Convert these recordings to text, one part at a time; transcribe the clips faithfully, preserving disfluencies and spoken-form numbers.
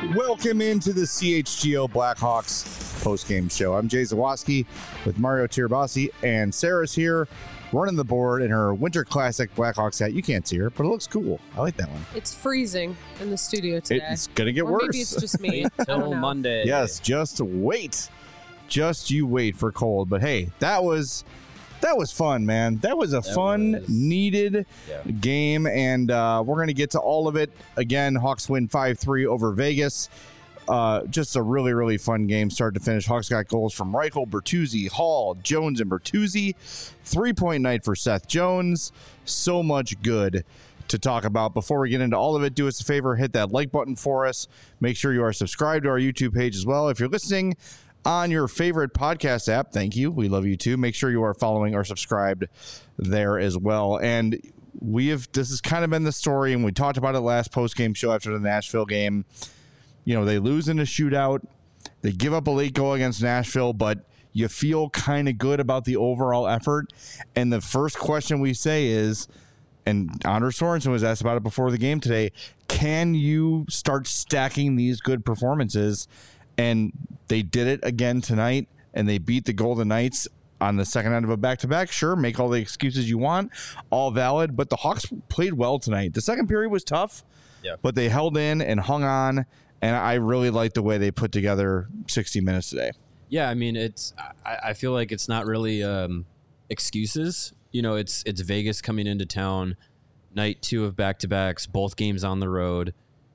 Welcome into the C H G O Blackhawks postgame show. I'm Jay Zawaski with Mario Tirabassi, and Sarah's here running the board in her Winter Classic Blackhawks hat. You can't see her, but it looks cool. I like that one. It's freezing in the studio today. It's going to get or worse. Maybe it's just me. Until Monday. Yes, just wait. Just you wait for cold. But hey, that was... That was fun, man. That was a that fun, was, needed yeah. game, and uh, we're going to get to all of it. Again, Hawks win five three over Vegas. Uh, just a really, really fun game, start to finish. Hawks got goals from Reichel, Bertuzzi, Hall, Jones, and Bertuzzi. Three-point night for Seth Jones. So much good to talk about. Before we get into all of it, do us a favor, hit that like button for us. Make sure you are subscribed to our YouTube page as well. If you're listening on your favorite podcast app, thank you. We love you too. Make sure you are following or subscribed there as well. And we have, this has kind of been the story, and we talked about it last post-game show after the Nashville game. You know, they lose in a shootout. They give up a late goal against Nashville, but you feel kind of good about the overall effort. And the first question we say is, and Anders Sorensen was asked about it before the game today, can you start stacking these good performances? And they did it again tonight, and they beat the Golden Knights on the second end of a back-to-back. Sure, make all the excuses you want, all valid, but the Hawks played well tonight. The second period was tough, yeah. but they held in and hung on, and I really like the way they put together sixty minutes today. Yeah, I mean, it's. I, I feel like it's not really um, excuses. You know, it's it's Vegas coming into town, night two of back-to-backs, both games on the road.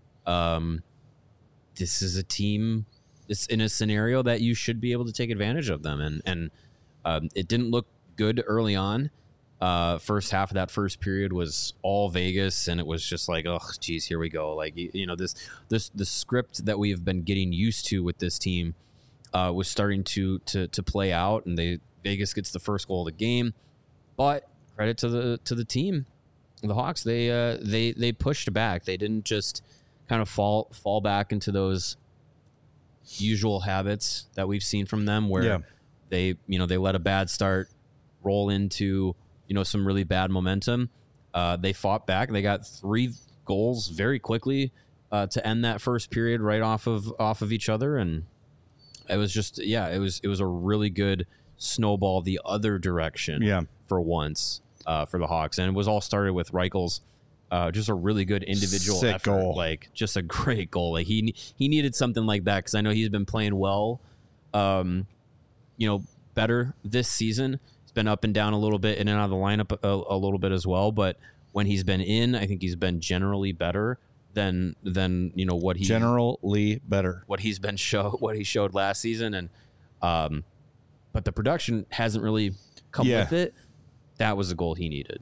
Um, this is a team... It's in a scenario that you should be able to take advantage of them. And, and um, it didn't look good early on. Uh, first half of that first period was all Vegas, and it was just like, oh, geez, here we go. Like, you, you know, this, this, the script that we've been getting used to with this team uh, was starting to, to, to play out, and they, Vegas gets the first goal of the game. But credit to the, to the team, the Hawks, they, uh, they, they pushed back. They didn't just kind of fall, fall back into those usual habits that we've seen from them, where yeah. they, you know, they let a bad start roll into, you know, some really bad momentum. Uh, they fought back. They got three goals very quickly uh, to end that first period right off of off of each other, and it was just, yeah, it was it was a really good snowball the other direction. Yeah. for once uh, for the Hawks, and it was all started with Reichel's. Uh, just a really good individual Sick effort, goal. Like just a great goal. Like he he needed something like that, because I know he's been playing well, um, you know, better this season. He's been up and down a little bit, in and out of the lineup a, a little bit as well. But when he's been in, I think he's been generally better than than you know what he generally better what he's been show what he showed last season. And um, but the production hasn't really come yeah. with it. That was the goal he needed.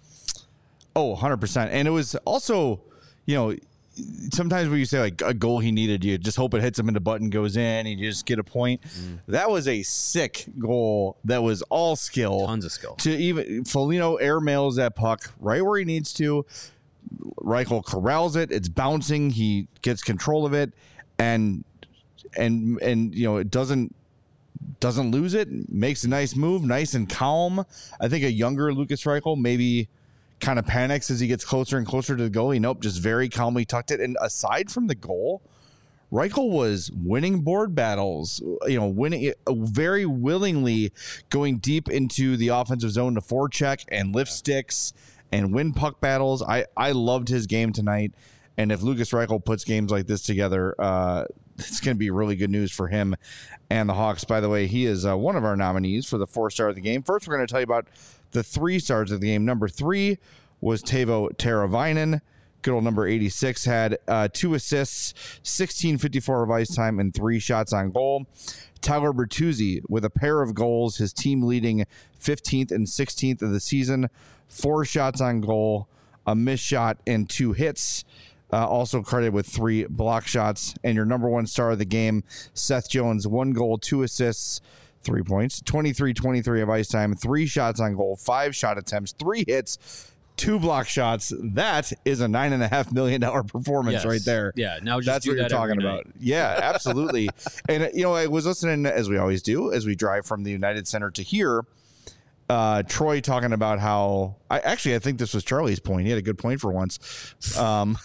Oh, one hundred percent. And it was also, you know, sometimes when you say like a goal he needed, you just hope it hits him and the button goes in and you just get a point. Mm. That was a sick goal that was all skill. Tons of skill. To even Foligno airmails that puck right where he needs to. Reichel corrals it. It's bouncing. He gets control of it, and and and you know, it doesn't doesn't lose it. Makes a nice move, nice and calm. I think a younger Lucas Reichel maybe kind of panics as he gets closer and closer to the goalie. Nope, just very calmly tucked it. And aside from the goal, Reichel was winning board battles, you know, winning very willingly, going deep into the offensive zone to forecheck and lift sticks and win puck battles. I, I loved his game tonight. And if Lucas Reichel puts games like this together, uh, it's going to be really good news for him and the Hawks. By the way, he is uh, one of our nominees for the four star of the game. First, we're going to tell you about the three stars of the game. Number three was Teuvo Teravainen. Good old number eighty-six had uh, two assists, sixteen fifty-four of ice time, and three shots on goal. Tyler Bertuzzi with a pair of goals, his team leading fifteenth and sixteenth of the season. Four shots on goal, a missed shot, and two hits. Uh, also credited with three block shots. And your number one star of the game, Seth Jones, one goal, two assists, three points, twenty-three twenty-three of ice time, three shots on goal, five shot attempts, three hits, two block shots. That is a nine and a half million dollar performance yes. right there. Yeah, now just that's do what that you're talking about. Yeah, absolutely. And you know, I was listening, as we always do, as we drive from the United Center to here, Uh, Troy talking about how I actually I think this was Charlie's point. He had a good point for once. Um,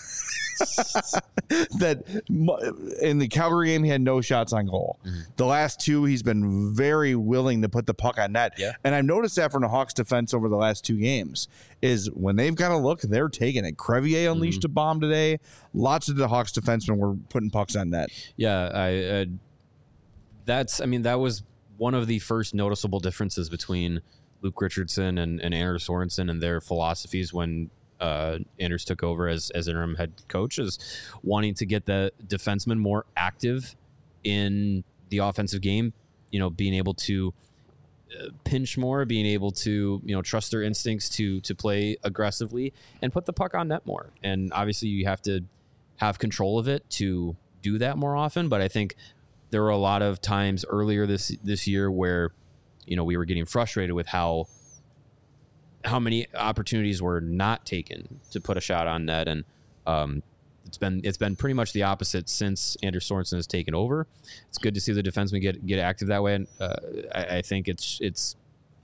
that in the Calgary game he had no shots on goal. Mm-hmm. The last two he's been very willing to put the puck on net. Yeah. And I've noticed that from the Hawks defense over the last two games is when they've got a look, they're taking it. Crevier unleashed mm-hmm. a bomb today. Lots of the Hawks defensemen were putting pucks on net. Yeah, I uh, that's I mean that was one of the first noticeable differences between Luke Richardson and, and Anders Sorensen and their philosophies when uh, Anders took over as, as interim head coach is wanting to get the defensemen more active in the offensive game, you know, being able to uh, pinch more, being able to, you know, trust their instincts to to play aggressively and put the puck on net more. And obviously you have to have control of it to do that more often. But I think there were a lot of times earlier this this year where, you know, we were getting frustrated with how how many opportunities were not taken to put a shot on net, and um, it's been it's been pretty much the opposite since Anders Sorensen has taken over. It's good to see the defensemen get get active that way, and uh, I, I think it's it's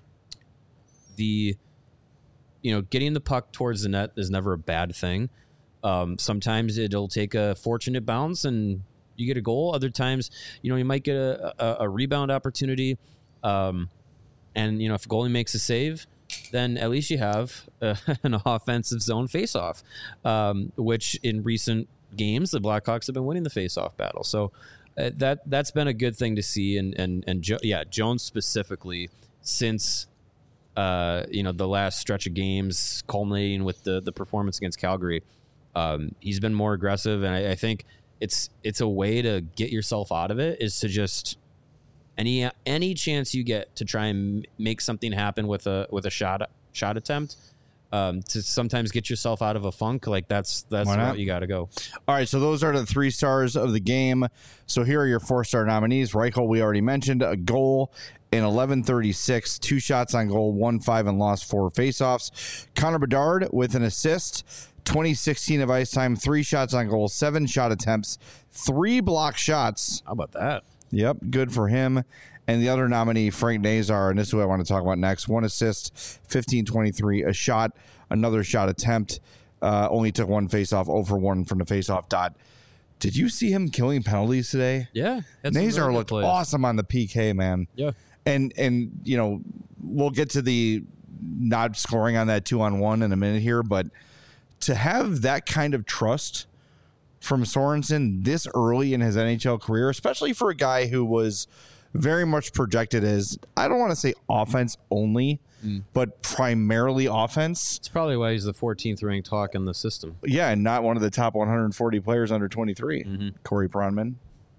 the you know getting the puck towards the net is never a bad thing. Um, sometimes it'll take a fortunate bounce and you get a goal. Other times, you know, you might get a, a, a rebound opportunity. Um, and, you know, if a goalie makes a save, then at least you have uh, an offensive zone faceoff, um, which in recent games, the Blackhawks have been winning the faceoff battle. So uh, that, that's been a good thing to see. And, and, and jo- yeah, Jones specifically, since, uh, you know, the last stretch of games culminating with the, the performance against Calgary, um, he's been more aggressive. And I, I think it's, it's a way to get yourself out of it is to just, Any any chance you get to try and make something happen with a with a shot shot attempt, um, to sometimes get yourself out of a funk, like that's that's where you got to go. All right, so those are the three stars of the game. So here are your four star nominees. Reichel, we already mentioned, a goal in eleven thirty-six, two shots on goal, one five and lost four faceoffs. Connor Bedard with an assist. twenty sixteen of ice time, three shots on goal, seven shot attempts, three block shots. How about that? Yep, good for him. And the other nominee, Frank Nazar, and this is what I want to talk about next. One assist, fifteen twenty-three, a shot, another shot attempt. Uh, only took one faceoff, zero for one from the faceoff dot. Did you see him killing penalties today? Yeah. Nazar looked awesome on the P K, man. Yeah. And, and you know, we'll get to the not scoring on that two-on-one in a minute here, but to have that kind of trust from Sorensen this early in his N H L career, especially for a guy who was very much projected as, I don't want to say offense only, mm. but primarily offense. It's probably why he's the fourteenth ranked Hawk in the system. Yeah, and not one of the top one hundred forty players under twenty-three. Mm-hmm. Corey Pronman.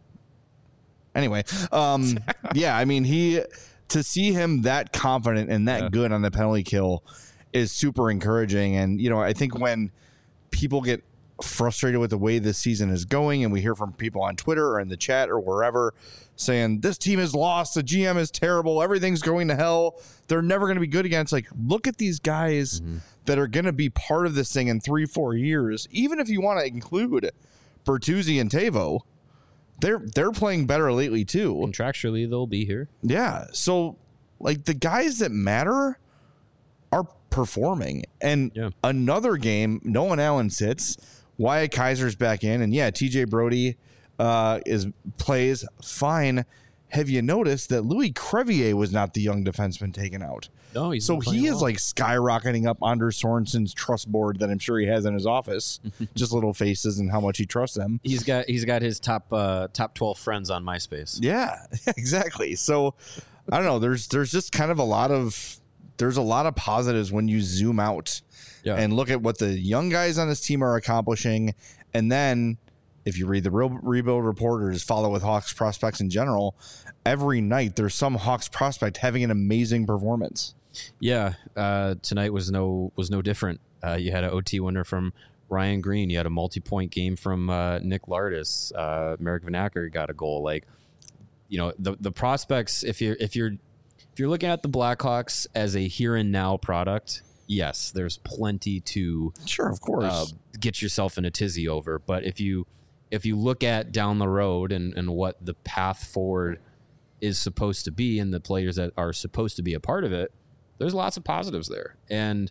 Anyway, um, yeah, I mean, he to see him that confident and that yeah. good on the penalty kill is super encouraging. And, you know, I think when people get frustrated with the way this season is going, and we hear from people on Twitter or in the chat or wherever saying this team is lost, the G M is terrible, everything's going to hell, they're never going to be good again. It's like, look at these guys mm-hmm. that are going to be part of this thing in three, four years. Even if you want to include Bertuzzi and Tavo, they're they're playing better lately too. Contractually, they'll be here. Yeah, so like the guys that matter are performing. And yeah. another game, Nolan Allen sits. Wyatt Kaiser's back in, and yeah, T J Brody uh, is plays fine. Have you noticed that Louis Crevier was not the young defenseman taken out? No, he's so he is well. like skyrocketing up Anders Sorensen's trust board that I'm sure he has in his office. Just little faces and how much he trusts them. He's got he's got his top uh, top twelve friends on MySpace. Yeah, exactly. So I don't know. There's there's just kind of a lot of there's a lot of positives when you zoom out. Yeah. And look at what the young guys on this team are accomplishing. And then if you read the Real Rebuild Report or just follow with Hawks prospects in general, every night there's some Hawks prospect having an amazing performance. Yeah. Uh, tonight was no was no different. Uh, you had an O T winner from Ryan Green. You had a multi-point game from uh, Nick Lardis. Uh, Merrick Vanacker got a goal. Like, you know, the the prospects, if you're if you're if you're looking at the Blackhawks as a here and now product, yes, there's plenty to sure, of course, uh, get yourself in a tizzy over. But if you if you look at down the road and, and what the path forward is supposed to be and the players that are supposed to be a part of it, there's lots of positives there. And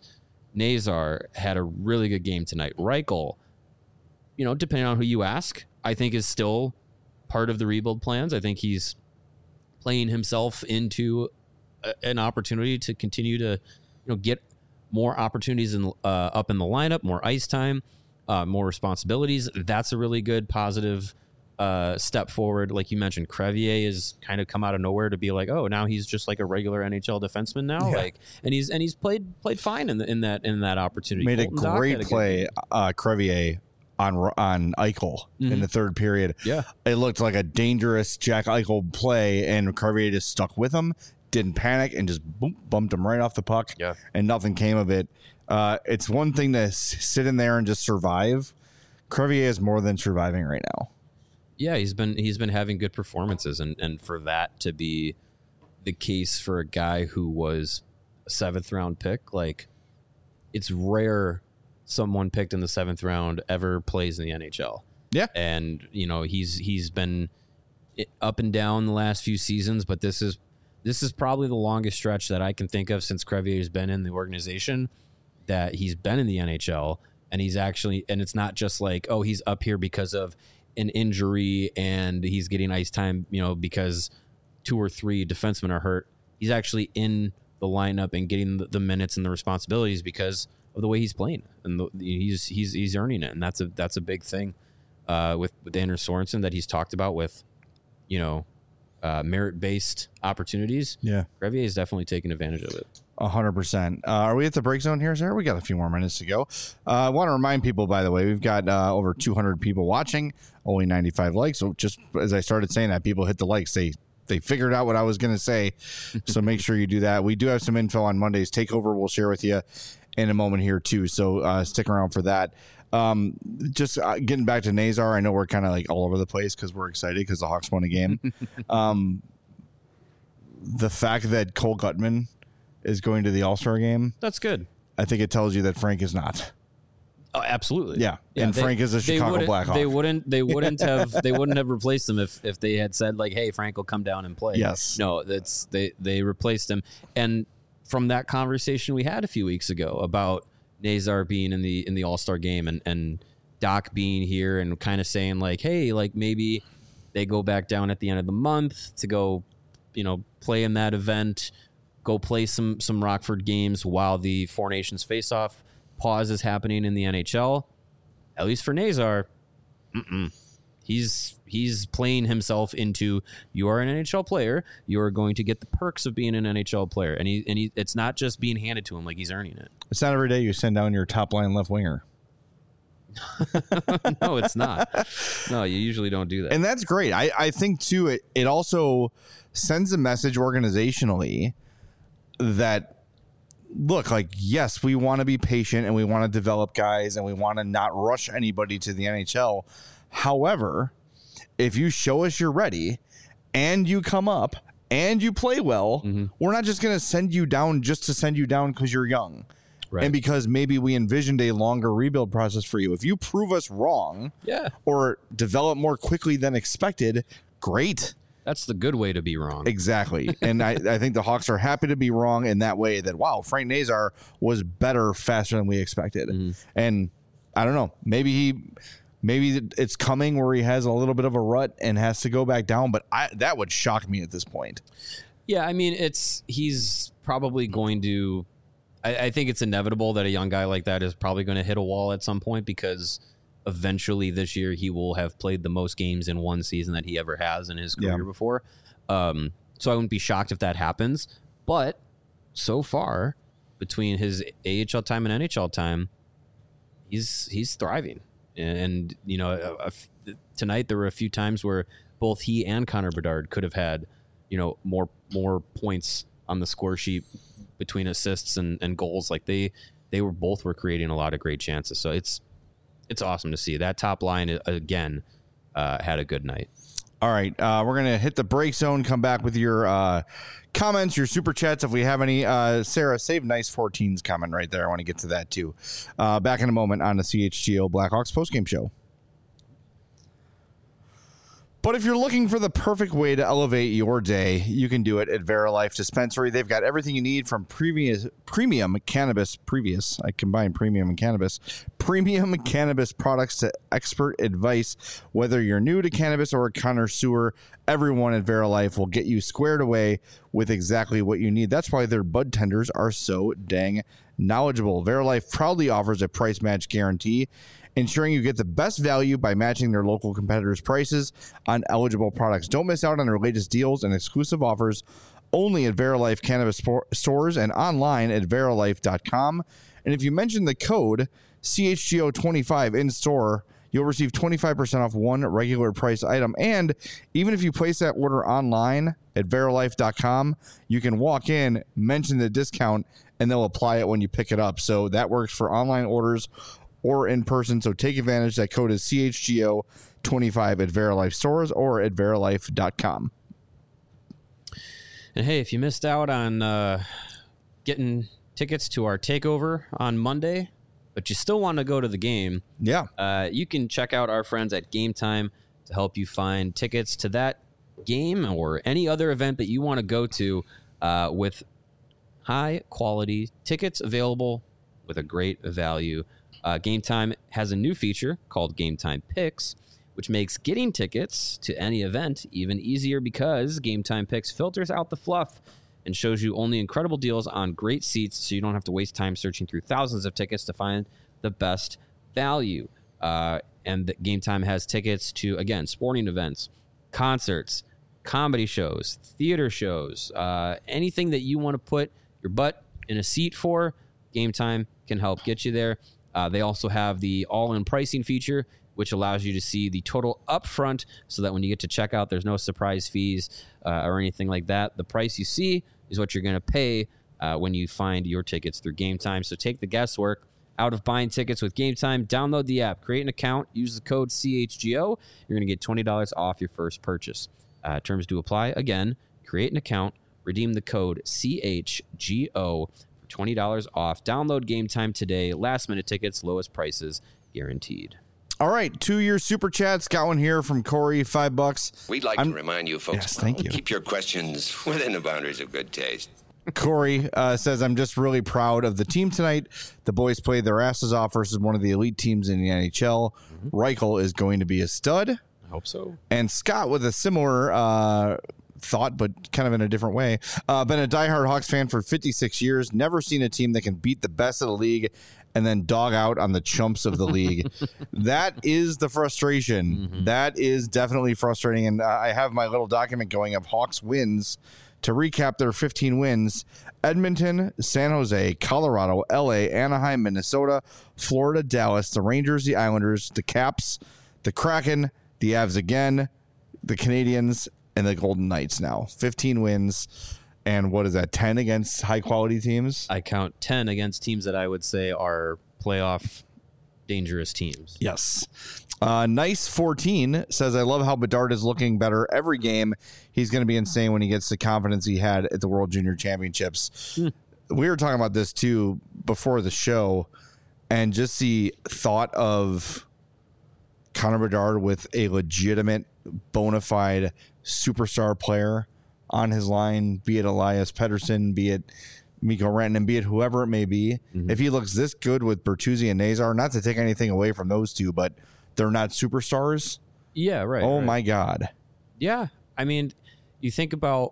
Nazar had a really good game tonight. Reichel, you know, depending on who you ask, I think is still part of the rebuild plans. I think he's playing himself into a, an opportunity to continue to, you know, get more opportunities in, uh, up in the lineup, more ice time, uh, more responsibilities. That's a really good positive uh, step forward. Like you mentioned, Crevier has kind of come out of nowhere to be like, oh, now he's just like a regular N H L defenseman now. Yeah. Like, and he's and he's played played fine in the, in that in that opportunity. Made Colton a Dach great had a good play, game. uh, Crevier on on Eichel in Mhm. the third period. Yeah. It looked like a dangerous Jack Eichel play, and Crevier just stuck with him, didn't panic, and just boom, bumped him right off the puck. Yeah. And nothing came of it. Uh, it's one thing to s- sit in there and just survive. Crevier is more than surviving right now. Yeah, he's been he's been having good performances, and and for that to be the case for a guy who was a seventh round pick, like it's rare someone picked in the seventh round ever plays in the N H L. Yeah. And you know he's he's been up and down the last few seasons, but this is this is probably the longest stretch that I can think of since Crevier's been in the organization that he's been in the N H L, and he's actually, and it's not just like, oh, he's up here because of an injury and he's getting ice time, you know, because two or three defensemen are hurt. He's actually in the lineup and getting the, the minutes and the responsibilities because of the way he's playing, and the, he's he's he's earning it, and that's a that's a big thing uh, with with Anders Sorensen that he's talked about with, you know, uh, merit based opportunities. Yeah. Crevier is definitely taking advantage of it. A hundred percent. Uh, are we at the break zone here, Sarah? We got a few more minutes to go. Uh, I want to remind people, by the way, we've got uh, over two hundred people watching, only ninety-five likes. So just as I started saying that, people hit the likes. They they figured out what I was going to say. So make sure you do that. We do have some info on Monday's takeover. We'll share with you in a moment here too. So uh, stick around for that. Um, just uh, getting back to Nazar. I know we're kind of like all over the place because we're excited because the Hawks won a game. um, the fact that Cole Gutman is going to the All-Star game, That's good. I think it tells you that Frank is not. Oh, absolutely. Yeah, and they- Frank is a they Chicago wouldn't- Blackhawk. They wouldn't. They wouldn't have. They wouldn't have replaced him if, if they had said like, "Hey, Frank will come down and play." Yes. No, that's they. They replaced him, and from that conversation we had a few weeks ago about Nazar being in the in the All Star game and and Doc being here and kind of saying like, "Hey, like maybe they go back down at the end of the month to go, you know, play in that event." Go play some some Rockford games while the Four Nations face-off pause is happening in the N H L. At least for Nazar, mm-mm. he's he's playing himself into, you are an N H L player, you are going to get the perks of being an N H L player, and he and he, it's not just being handed to him, like he's earning it. It's not every day you send down your top line left winger. No, it's not. No, you usually don't do that. And that's great. I, I think, too, it, it also sends a message organizationally that, look, like, yes, we want to be patient and we want to develop guys and we want to not rush anybody to the N H L. However, if you show us you're ready and you come up and you play well, Mm-hmm. we're not just going to send you down just to send you down because you're young. Right. And because maybe we envisioned a longer rebuild process for you. If you prove us wrong Yeah, or develop more quickly than expected, great. that's the good way to be wrong. Exactly. And I, I think the Hawks are happy to be wrong in that way, that, wow, Frank Nazar was better faster than we expected. Mm-hmm. And I don't know, maybe he, maybe it's coming where he has a little bit of a rut and has to go back down. But I, that would shock me at this point. Yeah, I mean, it's he's probably going to. I, I think it's inevitable that a young guy like that is probably going to hit a wall at some point because eventually this year he will have played the most games in one season that he ever has in his career Yeah. before. Um, so I wouldn't be shocked if that happens. But so far, between his A H L time and N H L time, he's he's thriving. And, and you know, a, a f- tonight there were a few times where both he and Connor Bedard could have had, you know, more more points on the score sheet between assists and, and goals. Like they they were both were creating a lot of great chances. So it's it's awesome to see. That top line again uh, had a good night. All right, uh, we're going to hit the break zone, come back with your uh, comments, your super chats, if we have any. Uh, Sarah, save Nice fourteen's comment right there. I want to get to that, too. Uh, back in a moment on the C H G O Blackhawks postgame show. But if you're looking for the perfect way to elevate your day, you can do it at Verilife Dispensary. They've got everything you need from previous premium cannabis, previous, I combine premium and cannabis, premium cannabis products to expert advice. Whether you're new to cannabis or a connoisseur, everyone at Verilife will get you squared away with exactly what you need. That's why their bud tenders are so dang knowledgeable. Verilife proudly offers a price match guarantee, ensuring you get the best value by matching their local competitors' prices on eligible products. Don't miss out on their latest deals and exclusive offers only at Verilife Cannabis stores and online at verilife dot com. And if you mention the code C H G O twenty-five in store, you'll receive twenty-five percent off one regular price item. And even if you place that order online at verilife dot com, you can walk in, mention the discount, and they'll apply it when you pick it up. So that works for online orders or in person. So take advantage. That code is C H G O twenty-five at Verilife stores or at verilife dot com. And hey, if you missed out on uh, getting tickets to our takeover on Monday, but you still want to go to the game, yeah, uh, you can check out our friends at Game Time to help you find tickets to that game or any other event that you want to go to uh, with high quality tickets available with a great value. Uh, Game Time has a new feature called Game Time Picks, which makes getting tickets to any event even easier because Game Time Picks filters out the fluff and shows you only incredible deals on great seats, so you don't have to waste time searching through thousands of tickets to find the best value. Uh, and the Game Time has tickets to, again, sporting events, concerts, comedy shows, theater shows, uh, anything that you want to put your butt in a seat for, Game Time can help get you there. Uh, they also have the all-in pricing feature, which allows you to see the total upfront so that when you get to checkout, there's no surprise fees uh, or anything like that. The price you see is what you're going to pay uh, when you find your tickets through Game Time. So take the guesswork out of buying tickets with Game Time. Download the app, create an account, use the code C H G O. You're going to get twenty dollars off your first purchase. Uh, terms do apply. Again, create an account, redeem the code C H G O. twenty dollars off. Download Game Time today. Last minute tickets, lowest prices guaranteed. All right, two-year super chats. Got one here from Corey, five bucks. We'd like I'm, to remind you, folks, yes, thank you. Keep your questions within the boundaries of good taste. Corey uh, says, I'm just really proud of the team tonight. The boys played their asses off versus one of the elite teams in the N H L. Mm-hmm. Reichel is going to be a stud. I hope so. And Scott with a similar uh, thought, but kind of in a different way. Uh, been a diehard Hawks fan for fifty-six years. Never seen a team that can beat the best of the league and then dog out on the chumps of the league. That is the frustration. Mm-hmm. That is definitely frustrating. And uh, I have my little document going of Hawks wins to recap their fifteen wins. Edmonton, San Jose, Colorado, L A, Anaheim, Minnesota, Florida, Dallas, the Rangers, the Islanders, the Caps, the Kraken, the Avs again, the Canadians, and the Golden Knights now. fifteen wins. And what is that, ten against high-quality teams? I count ten against teams that I would say are playoff dangerous teams. Yes. Uh, nice fourteen says, I love how Bedard is looking better every game. He's going to be insane when he gets the confidence he had at the World Junior Championships. Hmm. We were talking about this, too, before the show, and just the thought of Connor Bedard with a legitimate, bona fide superstar player on his line, be it Elias Pettersson, be it Mikko Rantanen, be it whoever it may be. Mm-hmm. If he looks this good with Bertuzzi and Nazar, not to take anything away from those two, but they're not superstars. Yeah, right. Oh, right. my God. Yeah. I mean, you think about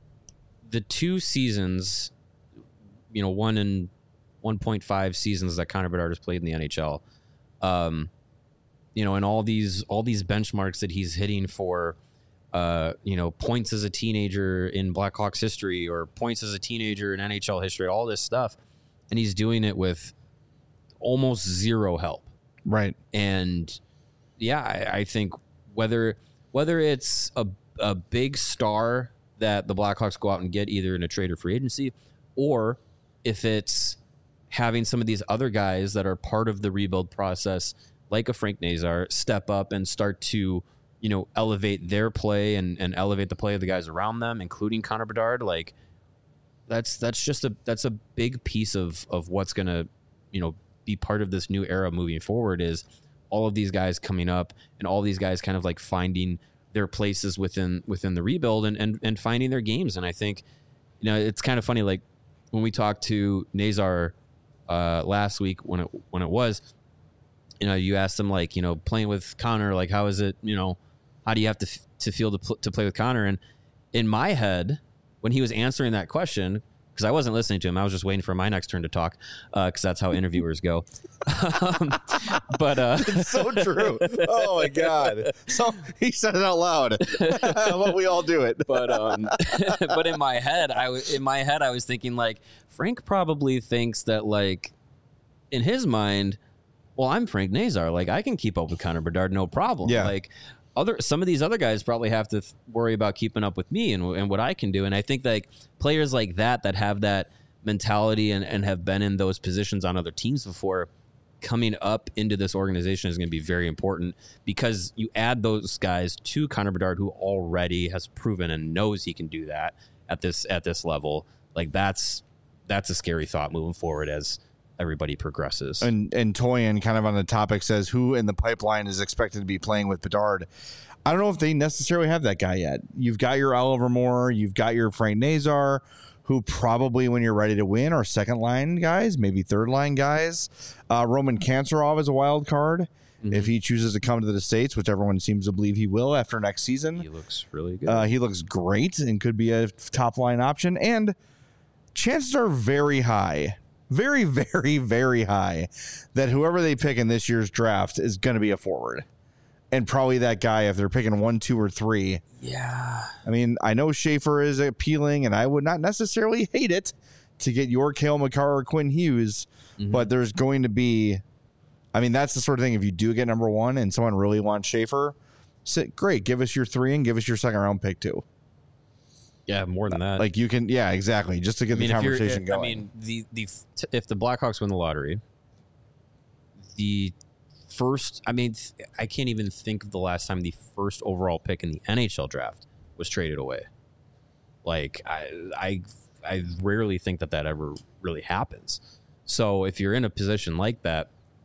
the two seasons, you know, one and one point five seasons that Connor Bedard has played in the N H L. Um, you know, and all these all these benchmarks that he's hitting for, uh, you know, points as a teenager in Blackhawks history or points as a teenager in N H L history, all this stuff. And he's doing it with almost zero help. Right. And yeah, I, I think whether whether it's a, a big star that the Blackhawks go out and get either in a trade or free agency, or if it's having some of these other guys that are part of the rebuild process, like a Frank Nazar, step up and start to, you know, elevate their play and, and elevate the play of the guys around them, including Connor Bedard. Like that's that's just a that's a big piece of of what's gonna, you know, be part of this new era moving forward, is all of these guys coming up and all these guys kind of like finding their places within within the rebuild and, and and finding their games. And I think, you know, it's kind of funny, like when we talked to Nazar uh, last week when it when it was, you know, you asked him, like, you know, playing with Connor, like, how is it, you know, how do you have to f- to feel to pl- to play with Connor? And in my head, when he was answering that question, because I wasn't listening to him, I was just waiting for my next turn to talk, because uh, that's how interviewers go. um, but uh, It's so true. Oh my God! So he said it out loud. Well, we all do it. but um, but in my head, I w- in my head I was thinking, like, Frank probably thinks that, like, in his mind, well, I'm Frank Nazar, like, I can keep up with Connor Bedard, no problem. Yeah. Like, other some of these other guys probably have to th- worry about keeping up with me and, and what I can do. And I think, like, players like that that have that mentality and, and have been in those positions on other teams before, coming up into this organization is going to be very important, because you add those guys to Connor Bedard, who already has proven and knows he can do that at this at this level. Like, that's that's a scary thought moving forward as everybody progresses. And and Toyin, kind of on the topic, says who in the pipeline is expected to be playing with Bedard. I don't know if they necessarily have that guy yet. You've got your Oliver Moore, you've got your Frank Nazar, who probably, when you're ready to win, are second line guys, maybe third line guys. Uh, Roman Kanserov is a wild card mm-hmm. if he chooses to come to the States, which everyone seems to believe he will after next season. He looks really good. Uh, he looks great and could be a top line option. And chances are very high. Very, very, very high that whoever they pick in this year's draft is going to be a forward. And probably that guy, if they're picking one, two, or three. Yeah. I mean, I know Schaefer is appealing, and I would not necessarily hate it to get your Cale Makar or Quinn Hughes, mm-hmm. but there's going to be, I mean, that's the sort of thing, if you do get number one and someone really wants Schaefer, sit, great, give us your three and give us your second round pick too. Yeah, more than that. Like, you can, yeah, exactly, just to get I mean, the if you're- conversation going. I mean, the the if the Blackhawks win the lottery, the first, I mean, I can't even think of the last time the first overall pick in the N H L draft was traded away. Like, I I I rarely think that that ever really happens. So if you're in a position like that,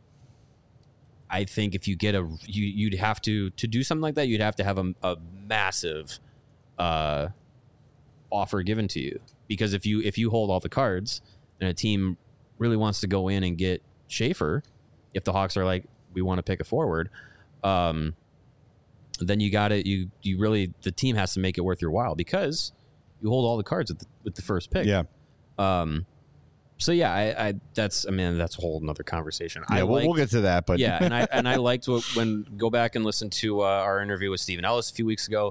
I think if you get a you you'd have to to do something like that, you'd have to have a, a massive uh offer given to you, because if you if you hold all the cards and a team really wants to go in and get Schaefer, if the Hawks are like, we want to pick a forward, um then you got it you you really the team has to make it worth your while, because you hold all the cards with the, with the first pick. Yeah. Um so yeah, I, I that's I mean that's a whole another conversation. Yeah, I we'll, liked, we'll get to that, but yeah, and I and I liked what, when go back and listen to uh, our interview with Stephen Ellis a few weeks ago.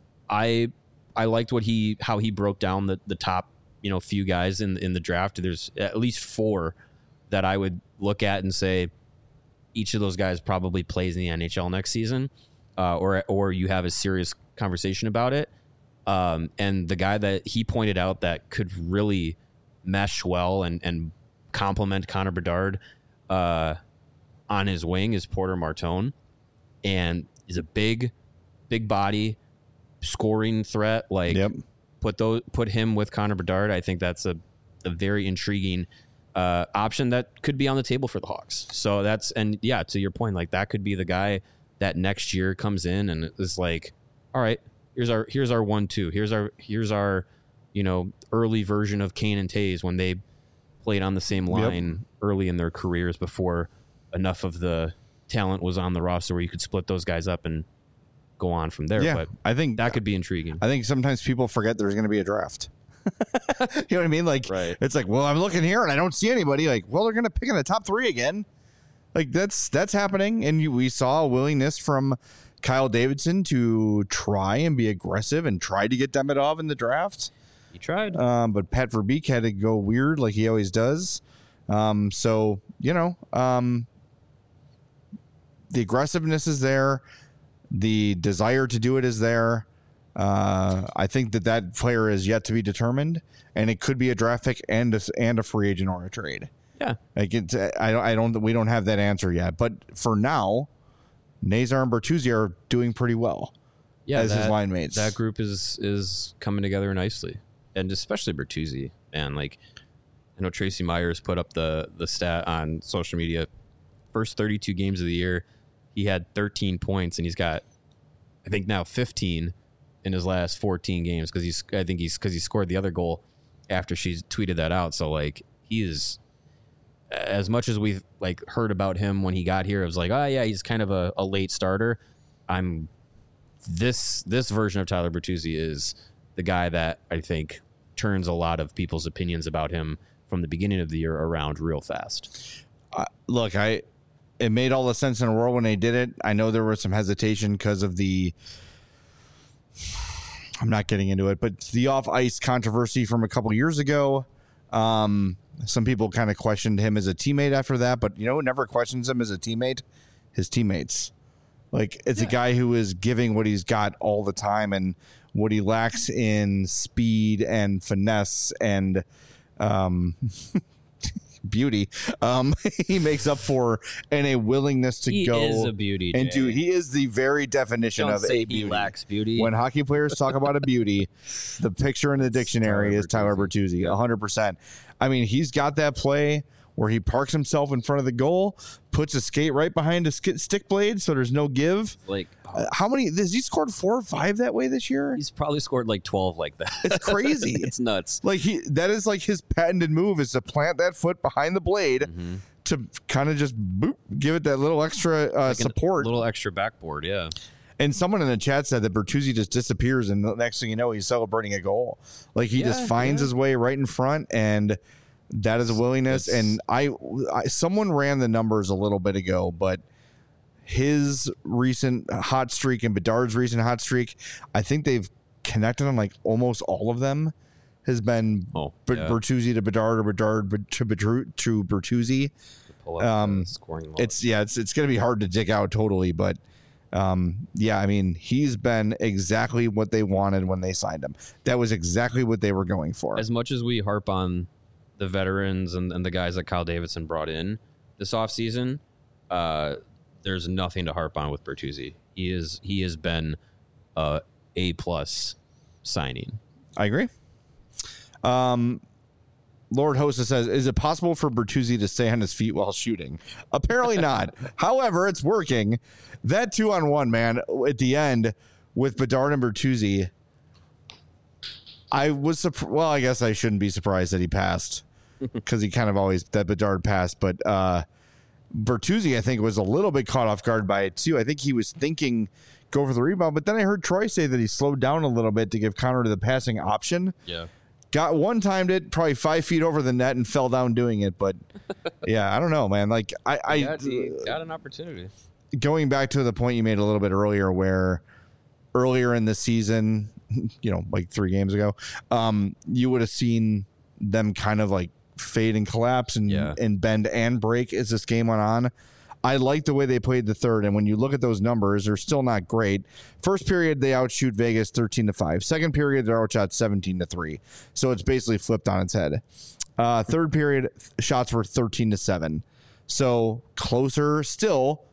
I I liked what he how he broke down the, the top, you know, few guys in in the draft. There's at least four that I would look at and say each of those guys probably plays in the N H L next season, uh, or or you have a serious conversation about it. Um, and the guy that he pointed out that could really mesh well and and complement Connor Bedard uh, on his wing is Porter Martone, and he's a big, big body. Scoring threat, like yep. put those put him with Connor Bedard. I think that's a, a very intriguing uh, option that could be on the table for the Hawks. So that's, and yeah, to your point, like that could be the guy that next year comes in and is like, all right, here's our here's our one two, here's our here's our you know early version of Kane and Taves when they played on the same line yep. early in their careers before enough of the talent was on the roster where you could split those guys up and go on from there. Yeah, but I think that could be intriguing. I think sometimes people forget there's going to be a draft. You know what I mean? Like, right. It's like, well, I'm looking here and I don't see anybody. Like, well, they're going to pick in the top three again. Like, that's that's happening, and you, we saw a willingness from Kyle Davidson to try and be aggressive and try to get Demidov in the draft. He tried, um, but Pat Verbeek had to go weird like he always does. Um, so you know, um, the aggressiveness is there. The desire to do it is there. Uh, I think that that player is yet to be determined, and it could be a draft pick and a, and a free agent or a trade. Yeah, like it's, I don't, I don't, we don't have that answer yet. But for now, Nazar and Bertuzzi are doing pretty well. Yeah, as that, his line mates. That group is is coming together nicely, and especially Bertuzzi. And like, I know Tracy Myers put up the the stat on social media. First thirty-two games of the year, he had thirteen points, and he's got I think now fifteen in his last fourteen games because he's I think he's because he scored the other goal after she tweeted that out. So like he is, as much as we've like heard about him when he got here, it was like, oh yeah, he's kind of a, a late starter. I'm this this version of Tyler Bertuzzi is the guy that I think turns a lot of people's opinions about him from the beginning of the year around real fast. Uh, look, I it made all the sense in the world when they did it. I know there was some hesitation because of the I'm not getting into it, but the off ice controversy from a couple years ago. Um, some people kind of questioned him as a teammate after that, but you know, never questions him as a teammate. His teammates, like it's yeah. a guy who is giving what he's got all the time, and what he lacks in speed and finesse and um, beauty, um, he makes up for in a willingness to he go. He is a beauty, and Jay. do he is the very definition Don't of say a beauty. He lacks beauty. When hockey players talk about a beauty, the picture in the dictionary Tyler is Tyler Bertuzzi, a hundred percent. I mean, he's got that play where he parks himself in front of the goal, puts a skate right behind a sk- stick blade, so there's no give. Like, uh, how many? Has he scored four or five that way this year? He's probably scored like twelve like that. It's crazy. It's nuts. Like he, that is like his patented move is to plant that foot behind the blade mm-hmm. to kind of just boop, give it that little extra uh, like support, a little extra backboard. Yeah. And someone in the chat said that Bertuzzi just disappears, and the next thing you know, he's celebrating a goal. Like he yeah, just finds yeah. his way right in front, and that is a willingness. It's, and I, I, someone ran the numbers a little bit ago, but his recent hot streak and Bedard's recent hot streak, I think they've connected on like almost all of them. Has been oh, B- yeah. Bertuzzi to Bedard or Bedard to Bedru- to Bertuzzi. Um, scoring it's yeah, it's it's going to be hard to dig out totally, but. Um, yeah, I mean, he's been exactly what they wanted when they signed him. That was exactly what they were going for. As much as we harp on the veterans and, and the guys that Kyle Davidson brought in this offseason, uh, there's nothing to harp on with Bertuzzi. He is he has been a A plus signing. I agree. Um, Lord Hosta says, is it possible for Bertuzzi to stay on his feet while shooting? Apparently not. However, it's working. That two on one, man, at the end with Bedard and Bertuzzi, I was surprised. Well, I guess I shouldn't be surprised that he passed because he kind of always, that Bedard passed. But uh, Bertuzzi, I think, was a little bit caught off guard by it, too. I think he was thinking go for the rebound. But then I heard Troy say that he slowed down a little bit to give Connor the passing option. Yeah. Got one timed it probably five feet over the net and fell down doing it. But yeah, I don't know, man. Like I, I yeah, he got an opportunity. Going back to the point you made a little bit earlier, where earlier in the season, you know, like three games ago, um, you would have seen them kind of like fade and collapse and, yeah. and bend and break as this game went on. I like the way they played the third, and when you look at those numbers, they're still not great. First period, they outshoot Vegas thirteen to five. Second period, they're outshot seventeen to three. So it's basically flipped on its head. Uh, third period, shots were thirteen to seven. So closer still.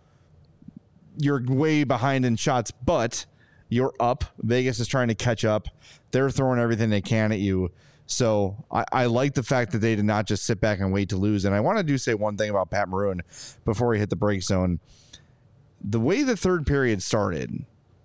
You're way behind in shots, but you're up. Vegas is trying to catch up. They're throwing everything they can at you. So I, I like the fact that they did not just sit back and wait to lose. And I want to do say one thing about Pat Maroon before we hit the break zone. The way the third period started,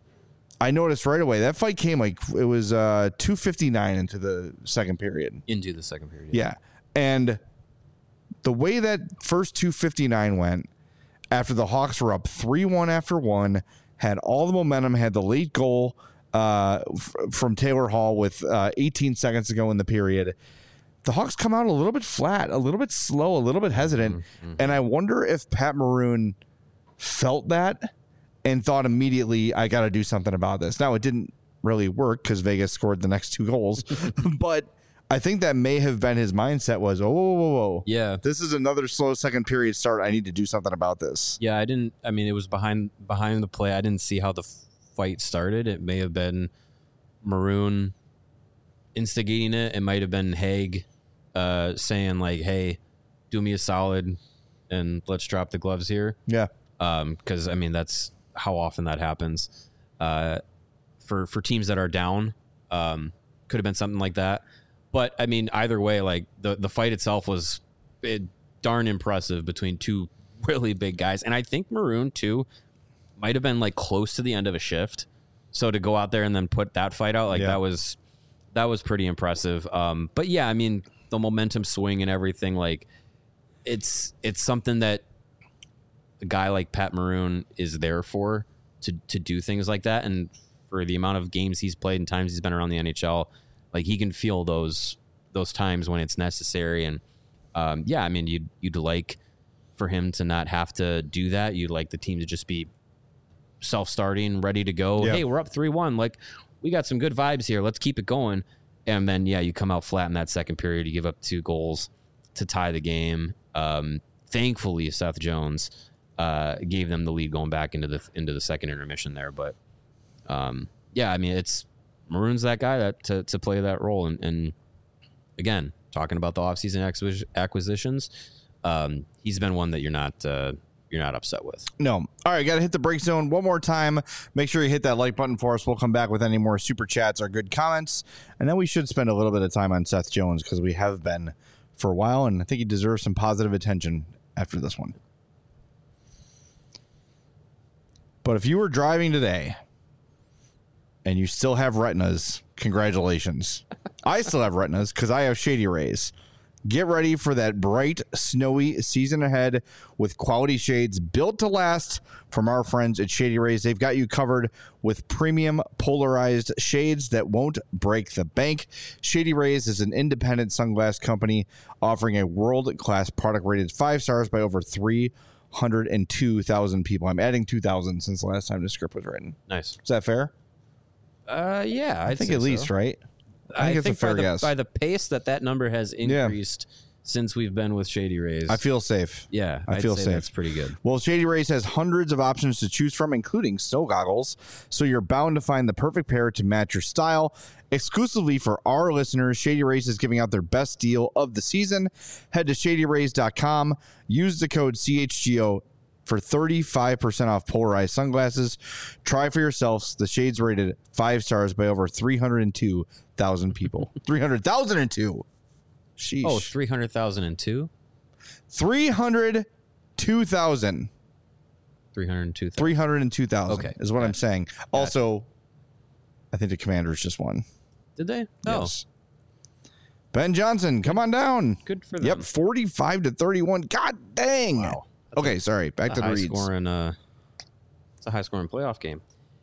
I noticed right away that fight came like it was uh, two fifty-nine into the second period. Into the second period. Yeah. yeah. And the way that first two fifty-nine went, after the Hawks were up three one after one, had all the momentum, had the late goal uh, f- from Taylor Hall with uh, eighteen seconds to go in the period. The Hawks come out a little bit flat, a little bit slow, a little bit hesitant. Mm-hmm. And I wonder if Pat Maroon felt that and thought immediately, I got to do something about this. Now, it didn't really work because Vegas scored the next two goals. But I think that may have been his mindset was, oh, whoa, whoa, whoa. Yeah. This is another slow second period start. I need to do something about this. Yeah, I didn't, I mean, it was behind behind the play. I didn't see how the fight started. It may have been Maroon instigating it. It might have been Haig uh, saying like, hey, do me a solid and let's drop the gloves here. Yeah. Um, because, I mean, that's how often that happens. Uh, for, for teams that are down, um, could have been something like that. But, I mean, either way, like, the, the fight itself was it, darn impressive between two really big guys. And I think Maroon, too, might have been, like, close to the end of a shift So to go out there and then put that fight out, like Yeah. that was that was pretty impressive. Um, but yeah, I mean the momentum swing and everything, like it's it's something that a guy like Pat Maroon is there for to to do things like that, and for the amount of games he's played and times he's been around the N H L, like he can feel those those times when it's necessary. And um, yeah, I mean you'd you'd like for him to not have to do that. You'd like the team to just be self-starting, ready to go. Yeah. Hey, we're up three one. Like, we got some good vibes here. Let's keep it going. And then, yeah, you come out flat in that second period. You give up two goals to tie the game. Um, thankfully, Seth Jones uh, gave them the lead going back into the into the second intermission there. But um, yeah, I mean, it's Maroon's that guy that to to play that role. And, and again, talking about the offseason acquis- acquisitions, um, he's been one that you're not. Uh, you're not upset with. No. All right, got to hit the break zone one more time. Make sure you hit that like button for us. We'll come back with any more super chats or good comments. And then we should spend a little bit of time on Seth Jones because we have been for a while, and I think he deserves some positive attention after this one. But if you were driving today and you still have retinas, congratulations. I still have retinas because I have Shady Rays. Get ready for that bright, snowy season ahead with quality shades built to last from our friends at Shady Rays. They've got you covered with premium polarized shades that won't break the bank. Shady Rays is an independent sunglass company offering a world-class product rated five stars by over three hundred two thousand people. I'm adding two thousand since the last time the script was written. Nice. Is that fair? Uh, yeah, I I'd think say at least, so. right? I think, I think it's a fair by, the, guess. by the pace that that number has increased since we've been with Shady Rays. I feel safe. yeah, I I'd feel say safe. That's pretty good. Well, Shady Rays has hundreds of options to choose from, including snow goggles, so you're bound to find the perfect pair to match your style. Exclusively for our listeners, Shady Rays is giving out their best deal of the season. Head to shady rays dot com, use the code C H G O for thirty-five percent off polarized sunglasses. Try for yourselves. The shades rated five stars by over three hundred two thousand people. three hundred thousand two. Sheesh. Oh, three hundred thousand two? three hundred two thousand. three hundred two thousand. three hundred two thousand Okay. is what Gotcha. I'm saying. Also, I think the Commanders just won. Did they? Oh, Yes. Ben Johnson, come on down. good for them. Yep, forty-five to thirty-one. God dang. Wow. Okay, sorry. Back a to the high reads. scoring, uh, it's a high scoring playoff game.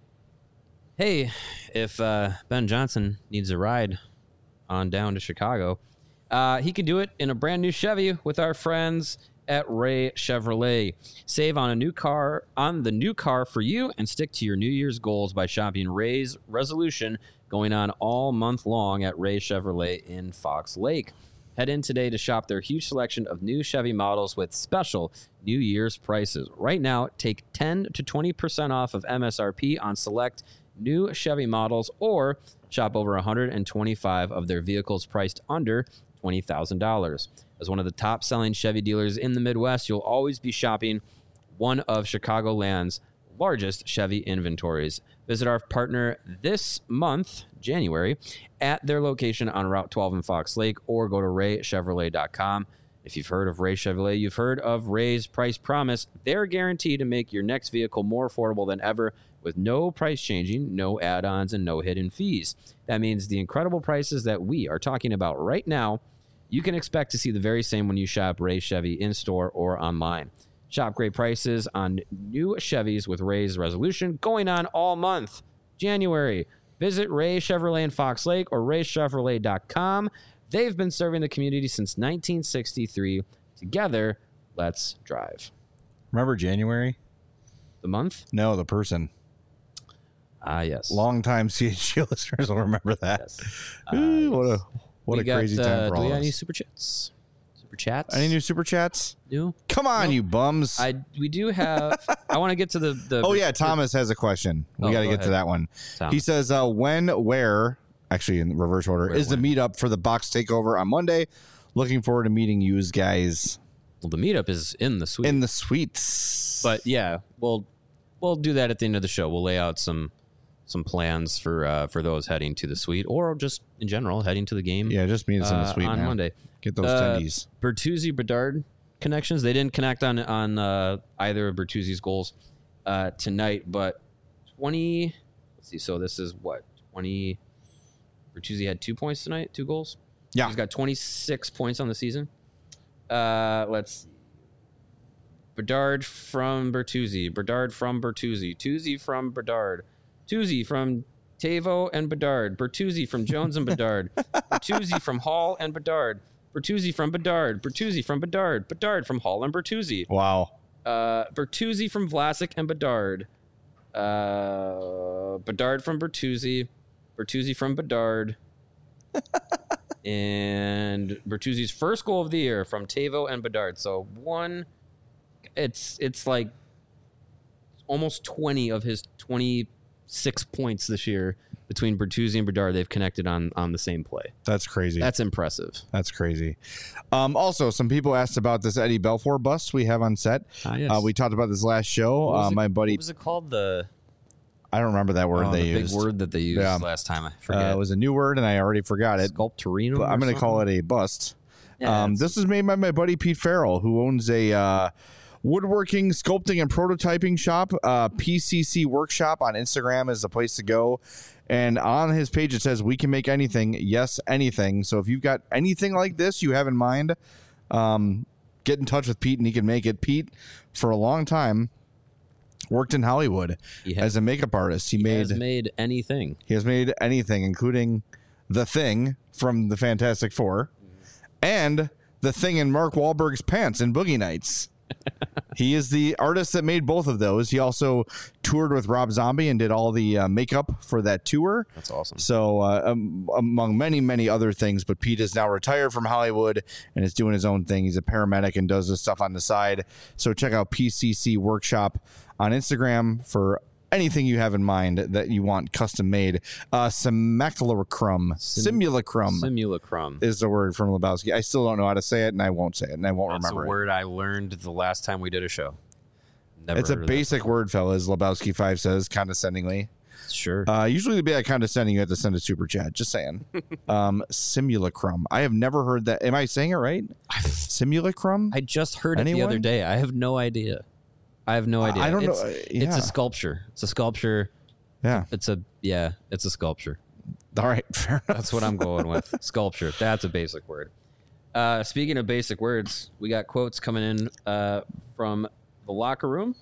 Hey, if uh, Ben Johnson needs a ride on down to Chicago, uh, he can do it in a brand new Chevy with our friends at Ray Chevrolet. Save on a new car on the new car for you and stick to your New Year's goals by shopping Ray's Resolution, going on all month long at Ray Chevrolet in Fox Lake. Head in today to shop their huge selection of new Chevy models with special New Year's prices. Right now, take ten to twenty percent off of M S R P on select new Chevy models, or shop over one hundred twenty-five of their vehicles priced under twenty thousand dollars. As one of the top-selling Chevy dealers in the Midwest, you'll always be shopping one of Chicagoland's largest Chevy inventories. Visit our partner this month, January, at their location on Route twelve in Fox Lake, or go to ray chevrolet dot com. If you've heard of Ray Chevrolet, you've heard of Ray's Price Promise. They're guaranteed to make your next vehicle more affordable than ever with no price changing, no add-ons, and no hidden fees. That means the incredible prices that we are talking about right now, you can expect to see the very same when you shop Ray Chevy in-store or online. Shop great prices on new Chevys with Ray's Resolution going on all month, January. Visit Ray Chevrolet in Fox Lake or ray chevrolet dot com. They've been serving the community since nineteen sixty-three. Together, let's drive. Remember January? The month? No, the person. Ah, yes. Long-time C H G listeners will remember that. Yes. Ooh, Uh, what a what we a got, crazy uh, time for do all we of got any us. super chats? Super chats? Any new super chats? New? Come on, Nope. you bums. I we do have. I want to get to the the. oh yeah, Thomas has a question. We Oh, got to go get to ahead. that one. Tom. He says, uh, when, where, actually in reverse order, Where, is the when? meetup for the box takeover on Monday? Looking forward to meeting you guys Well, the meetup is in the suite. in the suites. But yeah, we'll we'll do that at the end of the show. We'll lay out some some plans for uh, for those heading to the suite, or just in general heading to the game. yeah, just meet us in the uh, suite on man. Monday. Get those Uh, tendies. Bertuzzi Bedard connections. They didn't connect on on uh, either of Bertuzzi's goals uh, tonight, but twenty let's see. So this is what twenty. Bertuzzi had two points tonight, two goals. Yeah. He's got twenty-six points on the season. Uh, let's see. Bedard from Bertuzzi. Bedard from Bertuzzi. Tuzzi from Bedard. Tuzzi from Tavo and Bedard. Bertuzzi from Jones and Bedard. Bertuzzi from Hall and Bedard. Bertuzzi from Bedard. Bertuzzi from Bedard. Bedard from Hall and Bertuzzi. Wow. Uh, Bertuzzi from Vlasic and Bedard. Uh, Bedard from Bertuzzi. Bertuzzi from Bedard. And Bertuzzi's first goal of the year from Tavo and Bedard. So one, it's it's like almost twenty of his twenty-six points this year between Bertuzzi and Bedard. They've connected on on the same play. That's crazy. That's impressive. That's crazy. Um, also, some people asked about this Eddie Belfour bust we have on set. Ah, yes. Uh, we talked about this last show. What was Uh, it- my buddy, What was it called? The, I don't remember that word oh, they the used. big word that they used Yeah. last time. I Uh, forget. it was a new word, and I already forgot it. Sculptorino. But I'm going to call it a bust. Yeah, um, it's- this is made by my buddy Pete Farrell, who owns a uh, woodworking, sculpting, and prototyping shop. Uh, P C C Workshop on Instagram is the place to go. And on his page, it says, "We can make anything. Yes, anything." So if you've got anything like this you have in mind, um, get in touch with Pete, and he can make it. Pete, for a long time, worked in Hollywood He has- as a makeup artist. He, He made has made anything. he has made anything, including The Thing from the Fantastic Four and The Thing in Mark Wahlberg's pants in Boogie Nights. He is the artist that made both of those. He also toured with Rob Zombie and did all the uh, makeup for that tour. That's awesome. So, uh, um, among many, many other things, but Pete is now retired from Hollywood and is doing his own thing. He's a paramedic and does this stuff on the side. So, check out P C C Workshop on Instagram for anything you have in mind that you want custom made. Uh, simulacrum, Sim- simulacrum Simulacrum. is the word from Lebowski. I still don't know how to say it, and I won't say it, and I won't That's remember a it. word I learned the last time we did a show. Never It's a heard of that basic before. word, fellas. Lebowski five says condescendingly. Sure. Uh, usually to be that condescending, you have to send a super chat. Just saying. um, simulacrum. I have never heard that. Am I saying it right? Simulacrum? I just heard it the Anyone? other day. I have no idea. I have no idea. I don't know. It's, Uh, it's yeah. a sculpture. It's a sculpture. Yeah. It's a yeah. It's a sculpture. All right. Fair enough. That's what I'm going with. Sculpture. That's a basic word. Uh, speaking of basic words, we got quotes coming in uh, from the locker room.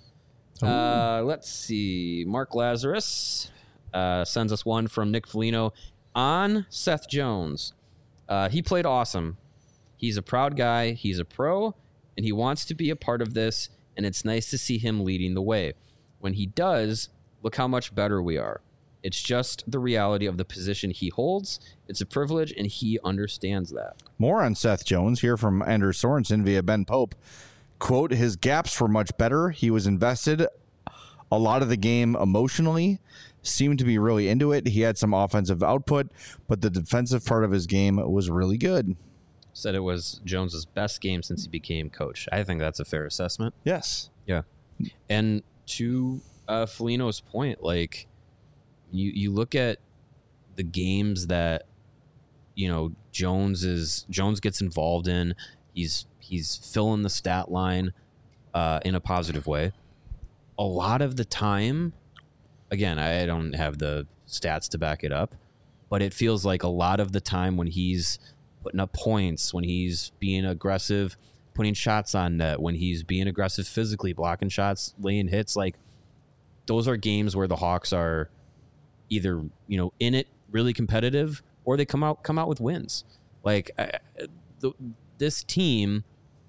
Uh, let's see. Mark Lazarus uh, sends us one from Nick Foligno on Seth Jones. Uh, he played awesome. He's a proud guy. He's a pro, and he wants to be a part of this, and it's nice to see him leading the way. When he does, look how much better we are. It's just the reality of the position he holds. It's a privilege, and he understands that. More on Seth Jones here from Andrew Sorensen via Ben Pope. Quote, his gaps were much better. He was invested a lot of the game emotionally, seemed to be really into it. He had some offensive output, but the defensive part of his game was really good. Said it was Jones's best game since he became coach. I think that's a fair assessment. Yes. Yeah. And to uh, Foligno's point, like, you, you look at the games that, you know, Jones is Jones gets involved in. He's he's filling the stat line uh, in a positive way. A lot of the time, again, I don't have the stats to back it up, but it feels like a lot of the time when he's putting up points, when he's being aggressive, putting shots on net, when he's being aggressive physically, blocking shots, laying hits, like those are games where the Hawks are either, you know, in it, really competitive, or they come out come out with wins. Like I, the, this team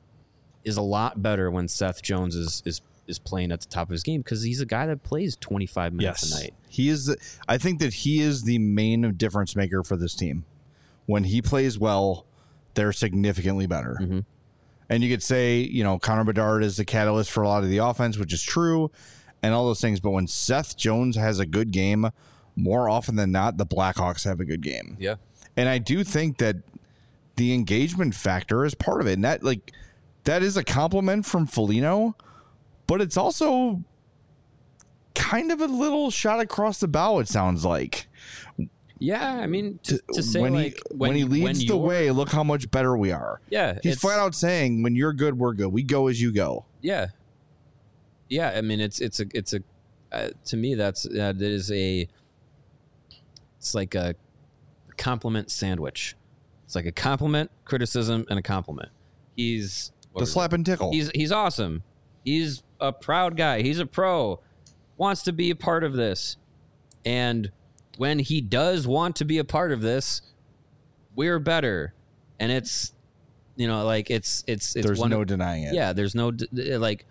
is a lot better when Seth Jones is is is playing at the top of his game because he's a guy that plays twenty-five minutes a night. He is. The, I think that he is the main difference maker for this team. When he plays well, they're significantly better. Mhm. And you could say, you know, Connor Bedard is the catalyst for a lot of the offense, which is true, and all those things. But when Seth Jones has a good game, more often than not, the Blackhawks have a good game. Yeah. And I do think that the engagement factor is part of it. And that, like, that is a compliment from Foligno, but it's also kind of a little shot across the bow, it sounds like. Yeah, I mean, to, to say when like he, when, he leads when the you're- way, look how much better we are. Yeah, He's it's- flat out saying, when you're good, we're good. We go as you go. Yeah, yeah. I mean, it's it's a it's a uh, to me that's that is a it's like a compliment sandwich. It's like a compliment, criticism, and a compliment. He's The slap and tickle. He's he's awesome. He's a proud guy. He's a pro. Wants to be a part of this. And when he does want to be a part of this, we're better. And it's, you know, like it's it's it's There's one no of, denying it. Yeah, there's no like,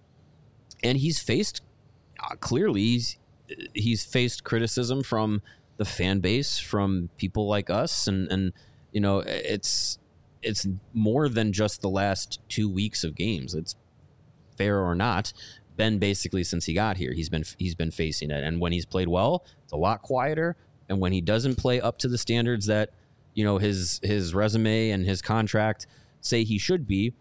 and he's faced uh, clearly he's he's faced criticism from the fan base, from people like us, and and you know it's it's more than just the last two weeks of games. It's fair or not, been basically since he got here. He's been he's been facing it, and when he's played well, it's a lot quieter. And when he doesn't play up to the standards that you know his his resume and his contract say he should be,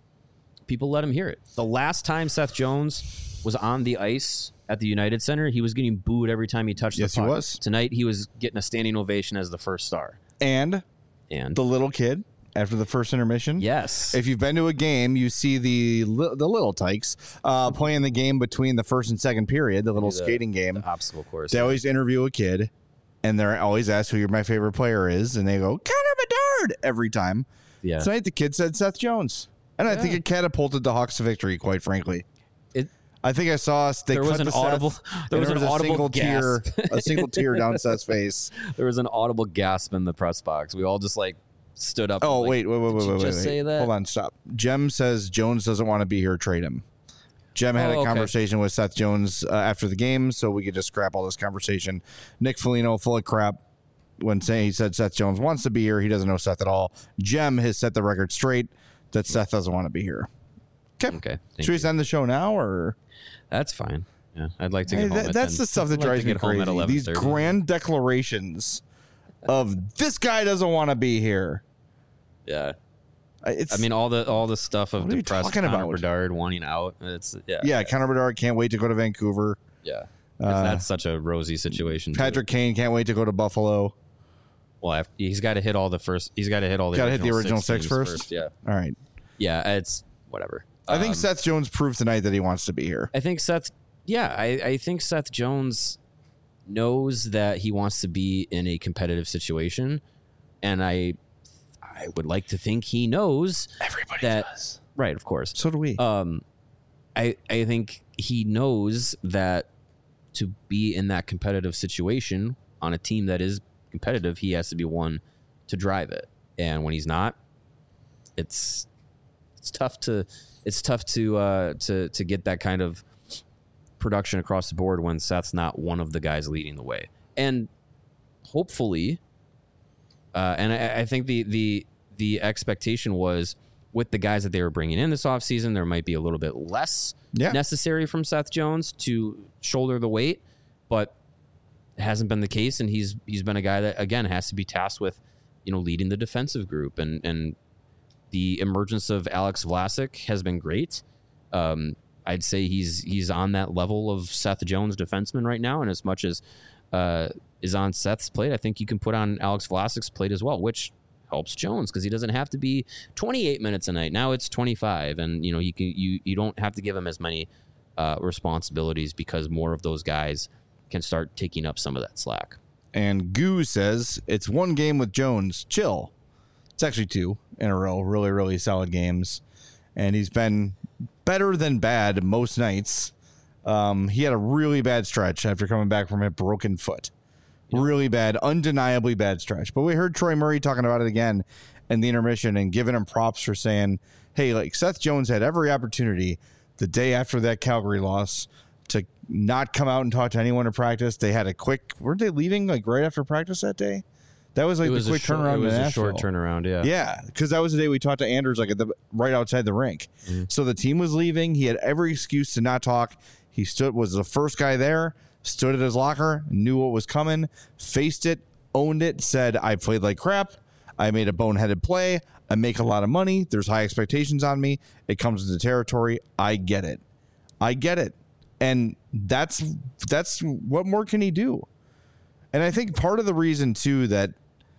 people let him hear it. The last time Seth Jones was on the ice at the United Center, he was getting booed every time he touched Yes, the puck. he was. Tonight, he was getting a standing ovation as the first star. And And the little kid after the first intermission. yes, If you've been to a game, you see the li- the little tykes uh, playing the game between the first and second period, the little The- skating game. the obstacle course. They always interview a kid, and they're always asked who your my favorite player is, and they go Connor Bedard every time. yeah. Tonight, the kid said Seth Jones, and I think Yeah. it catapulted the Hawks to victory. Quite frankly, It, I think I saw us. They There cut was an to Seth, audible- there and was an a audible single tear, gasp. a single tear down Seth's face. there was an audible gasp in the press box. We all just like stood up. Oh and, like, wait, wait, wait, did wait, you wait, just wait. say that? Hold on, stop. Jem says Jones doesn't want to be here. Trade him. Jem had Oh, a okay. conversation with Seth Jones uh, after the game, so we could just scrap all this conversation. Nick Foligno, full of crap, when saying he said Seth Jones wants to be here. He doesn't know Seth at all. Jem has set the record straight that Seth doesn't want to be here. Okay. Okay, thank Should we you. end the show now, or That's fine. Yeah, I'd like to Hey, get home. that- at that's ten. the stuff that I'd like drives to me get home at crazy. These eleven thirty. grand declarations of this guy doesn't want to be here. Yeah. Uh, It's, I mean, all the all the stuff of What are you depressed talking Connor about? Bedard wanting out. It's yeah, yeah, Connor Bedard can't wait to go to Vancouver. yeah. 'Cause Uh, that's such a rosy situation. too. Patrick Kane can't wait to go to Buffalo. well, after, he's got to hit all the first. He's got to hit all the. Gotta hit the original six teams first? Yeah, All right. yeah. It's whatever. I think Um, Seth Jones proved tonight that he wants to be here. I think Seth. Yeah, I, I think Seth Jones knows that he wants to be in a competitive situation, and I, I would like to think he knows Everybody that. Right, of course. So do we. Um, I I think he knows that to be in that competitive situation on a team that is competitive, he has to be one to drive it. And when he's not, it's it's tough to it's tough to uh, to to get that kind of production across the board when Seth's not one of the guys leading the way. And hopefully, uh, and I, I think the the the expectation was with the guys that they were bringing in this offseason, there might be a little bit less Yeah. necessary from Seth Jones to shoulder the weight, but it hasn't been the case. And he's he's been a guy that, again, has to be tasked with, you know, leading the defensive group. And, and the emergence of Alex Vlasic has been great. Um, I'd say he's he's on that level of Seth Jones defenseman right now. And as much as uh, is on Seth's plate, I think you can put on Alex Vlasic's plate as well, which helps Jones because he doesn't have to be twenty-eight minutes a night. Now it's twenty-five, and you know you can you you don't have to give him as many uh, responsibilities because more of those guys can start taking up some of that slack. And Goo says it's one game with Jones. Chill. It's actually two in a row. Really, really solid games. And he's been better than bad most nights. Um, he had a really bad stretch after coming back from a broken foot. Really bad, undeniably bad stretch. But we heard Troy Murray talking about it again in the intermission and giving him props for saying, hey, like Seth Jones had every opportunity the day after that Calgary loss to not come out and talk to anyone in practice. They had a quick, weren't they leaving like right after practice that day? That was like It was the quick a short, turnaround It was in a short Nashville. turnaround. Yeah. Yeah, because that was the day we talked to Anders, like at the right outside the rink. Mm-hmm. So the team was leaving. He had every excuse to not talk. He stood, was the first guy there, stood at his locker, knew what was coming, faced it, owned it, said, I played like crap. I made a boneheaded play. I make a lot of money. There's high expectations on me. It comes with the territory. I get it. I get it. And that's that's what more can he do? And I think part of the reason too that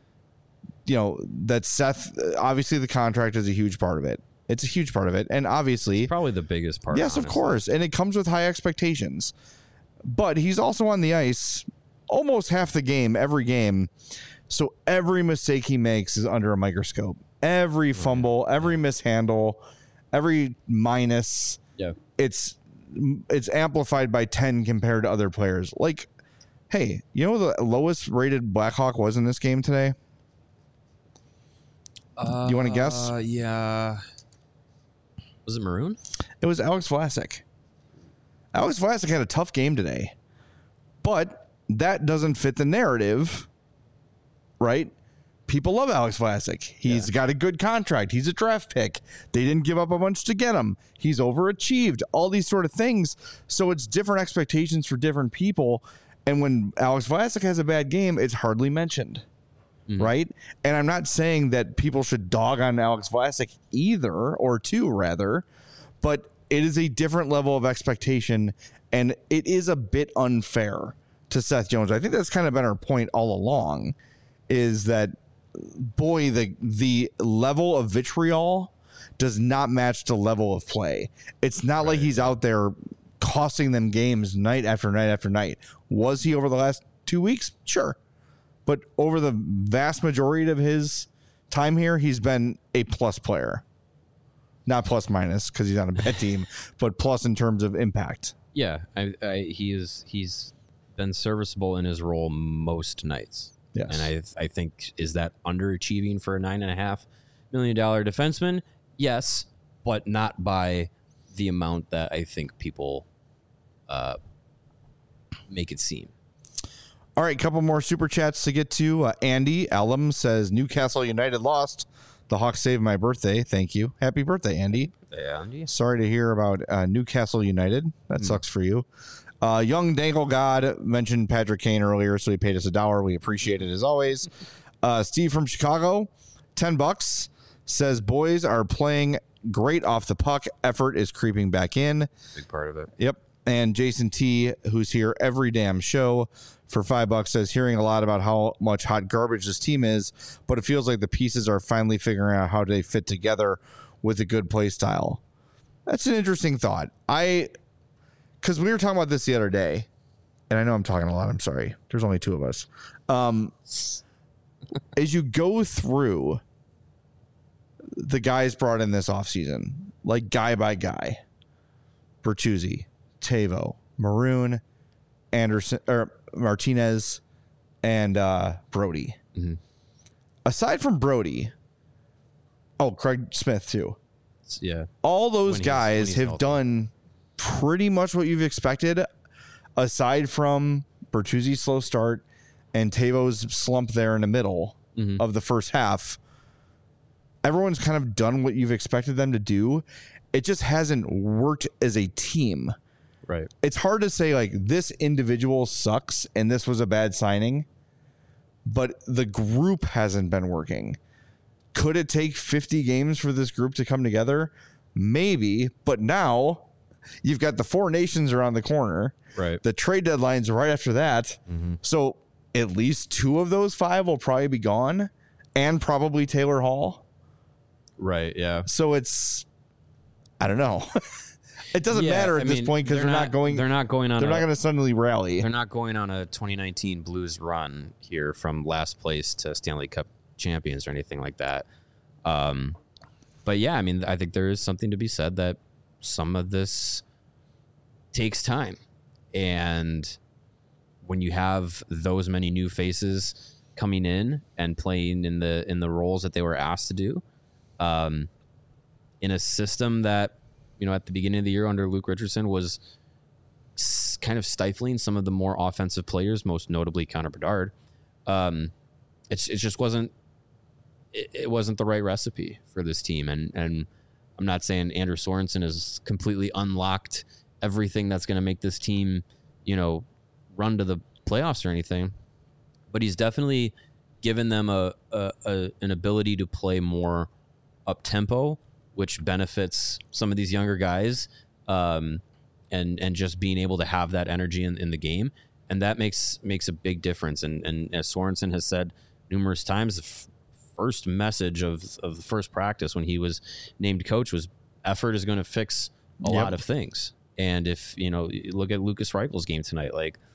you know that Seth, obviously the contract is a huge part of it. It's a huge part of it, and obviously Probably the biggest part. yes, of honestly. course, and it comes with high expectations. But he's also on the ice almost half the game, every game. So every mistake he makes is under a microscope. Every fumble, every mishandle, every minus. Yeah. It's it's amplified by ten compared to other players. Like, hey, you know what the lowest rated Blackhawk was in this game today? Uh, you want to guess? Uh, yeah. Was it Maroon? It was Alex Vlasic. Alex Vlasic had a tough game today, but that doesn't fit the narrative, right? People love Alex Vlasic. He's yeah. got a good contract. He's a draft pick. They didn't give up a bunch to get him. He's overachieved. All these sort of things. So it's different expectations for different people. And when Alex Vlasic has a bad game, it's hardly mentioned, mm-hmm. right? And I'm not saying that people should dog on Alex Vlasic either, or two rather, but it is a different level of expectation, and it is a bit unfair to Seth Jones. I think that's kind of been our point all along, is that, boy, the the level of vitriol does not match the level of play. It's not right. like he's out there costing them games night after night after night. Was he over the last two weeks? Sure. But over the vast majority of his time here, he's been a plus player. Not plus minus because he's on a bad team, but plus in terms of impact. Yeah, I, I, he is. He's been serviceable in his role most nights. Yes. And I, I think, is that underachieving for a nine and a half million dollar defenseman? Yes, but not by the amount that I think people uh, make it seem. All right, a couple more super chats to get to. Uh, Andy Alum says Newcastle United lost. The Hawks saved my birthday. Thank you. Happy birthday, Andy. Yeah, Andy. Sorry to hear about uh, Newcastle United. That mm. sucks for you. Uh, Young Dangle God mentioned Patrick Kane earlier, so he paid us a dollar. We appreciate it as always. Uh, Steve from Chicago, ten bucks, says boys are playing great off the puck. Effort is creeping back in. Big part of it. Yep. And Jason T, who's here every damn show, for five bucks, says hearing a lot about how much hot garbage this team is, but it feels like the pieces are finally figuring out how they fit together with a good play style. That's an interesting thought. I, because we were talking about this the other day, and I know I'm talking a lot. I'm sorry. There's only two of us. Um, as you go through the guys brought in this offseason, like guy by guy, Bertuzzi, Tavo, Maroon, Anderson, or Martinez, and uh, Brody. Mm-hmm. Aside from Brody, oh, Craig Smith too. Yeah. All those guys have healthy. done pretty much what you've expected, aside from Bertuzzi's slow start and Tavo's slump there in the middle mm-hmm. of the first half. Everyone's kind of done what you've expected them to do. It just hasn't worked as a team. Right. It's hard to say like this individual sucks and this was a bad signing, but the group hasn't been working. Could it take fifty games for this group to come together? Maybe, but now you've got the Four Nations around the corner. Right. The trade deadline's right after that. Mm-hmm. So at least two of those five will probably be gone, and probably Taylor Hall. Right. Yeah. So it's, I don't know. It doesn't yeah, matter at I this mean, point because they're, they're not, not going. They're not going on. They're a, not going to suddenly rally. They're not going on a twenty nineteen Blues run here from last place to Stanley Cup champions or anything like that. Um, but yeah, I mean, I think there is something to be said that some of this takes time, and when you have those many new faces coming in and playing in the in the roles that they were asked to do, um, in a system that, you know, at the beginning of the year under Luke Richardson was s- kind of stifling some of the more offensive players, most notably Connor Bedard. Um, it's it just wasn't it, it wasn't the right recipe for this team, and and I'm not saying Andrew Sorensen has completely unlocked everything that's going to make this team, you know, run to the playoffs or anything, but he's definitely given them a, a, a an ability to play more up tempo, which benefits some of these younger guys, um, and and just being able to have that energy in, in the game, and that makes makes a big difference. And and as Sorensen has said numerous times, the f- first message of of the first practice when he was named coach was effort is going to fix a yep. lot of things. And if you know, look at Lucas Reichel's game tonight, like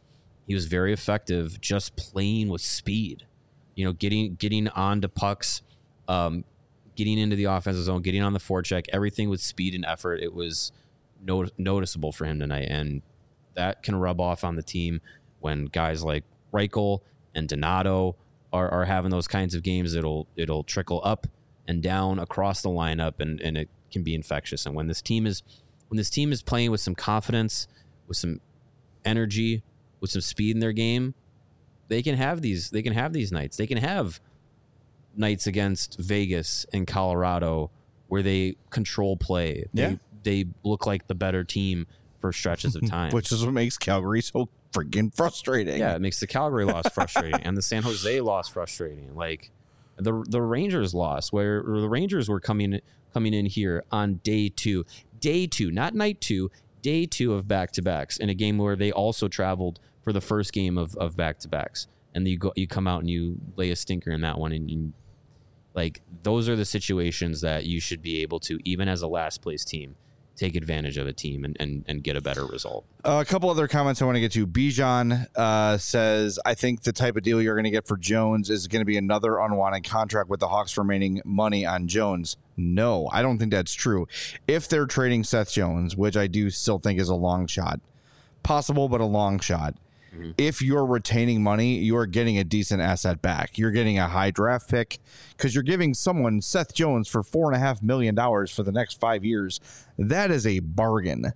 he was very effective just playing with speed. You know, getting getting onto pucks, um, getting into the offensive zone, getting on the forecheck, everything with speed and effort. It was no, noticeable for him tonight, and that can rub off on the team when guys like Reichel and Donato are, are having those kinds of games. It'll it'll trickle up and down across the lineup, and, and it can be infectious. And when this team is when this team is playing with some confidence, with some energy, with some speed in their game, they can have these. They can have these nights. They can have nights against Vegas and Colorado where they control play. They, Yeah. they look like the better team for stretches of time, Which is what makes Calgary so freaking frustrating. yeah, it makes the Calgary loss frustrating and the San Jose loss frustrating. Like the the Rangers loss, where, where the Rangers were coming coming in here on day two, day two, not night two, day two of back to backs in a game where they also traveled for the first game of, of back-to-backs, and you go, you come out and you lay a stinker in that one, and you, like those are the situations that you should be able to, even as a last place team, take advantage of a team and, and, and get a better result. Uh, a couple other comments I want to get to. Bijan uh, says, I think the type of deal you're going to get for Jones is going to be another unwanted contract with the Hawks remaining money on Jones. No, I don't think that's true. If they're trading Seth Jones, which I do still think is a long shot, possible, but a long shot. Mm-hmm. If you're retaining money, you're getting a decent asset back. You're getting a high draft pick because you're giving someone Seth Jones for four and a half million dollars for the next five years. That is a bargain.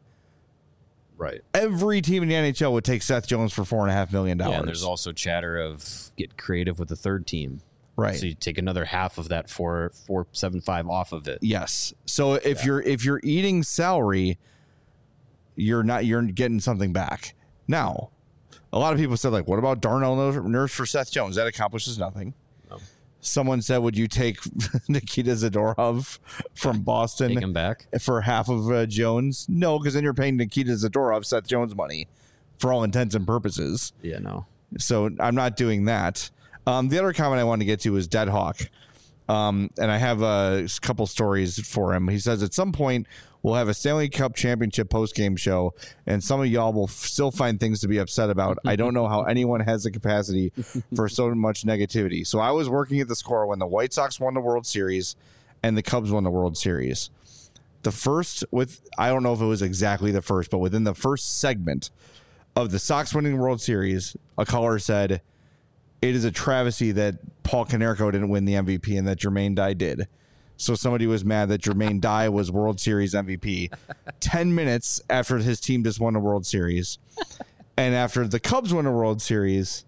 Right. Every team in the N H L would take Seth Jones for four and a half million dollars. Yeah, and there's also chatter of get creative with the third team. Right. So you take another half of that four four seven five off of it. Yes. So if Yeah. you're if you're eating salary, you're not you're getting something back. Now, a lot of people said, like, what about Darnell Nurse for Seth Jones? That accomplishes nothing. No. Someone said, would you take Nikita Zadorov from Boston Take him back. for half of uh, Jones? No, because then you're paying Nikita Zadorov Seth Jones money for all intents and purposes. Yeah, no. So I'm not doing that. Um, the other comment I wanted to get to is Dead Hawk. Um, and I have a couple stories for him. He says, at some point, we'll have a Stanley Cup championship post-game show, and some of y'all will f- still find things to be upset about. I don't know how anyone has the capacity for so much negativity. So I was working at the Score when the White Sox won the World Series and the Cubs won the World Series. The first, with I don't know if it was exactly the first, but within the first segment of the Sox winning the World Series, a caller said, it is a travesty that Paul Konerko didn't win the M V P and that Jermaine Dye did. So somebody was mad that Jermaine Dye was World Series M V P ten minutes after his team just won a World Series. And after the Cubs won a World Series,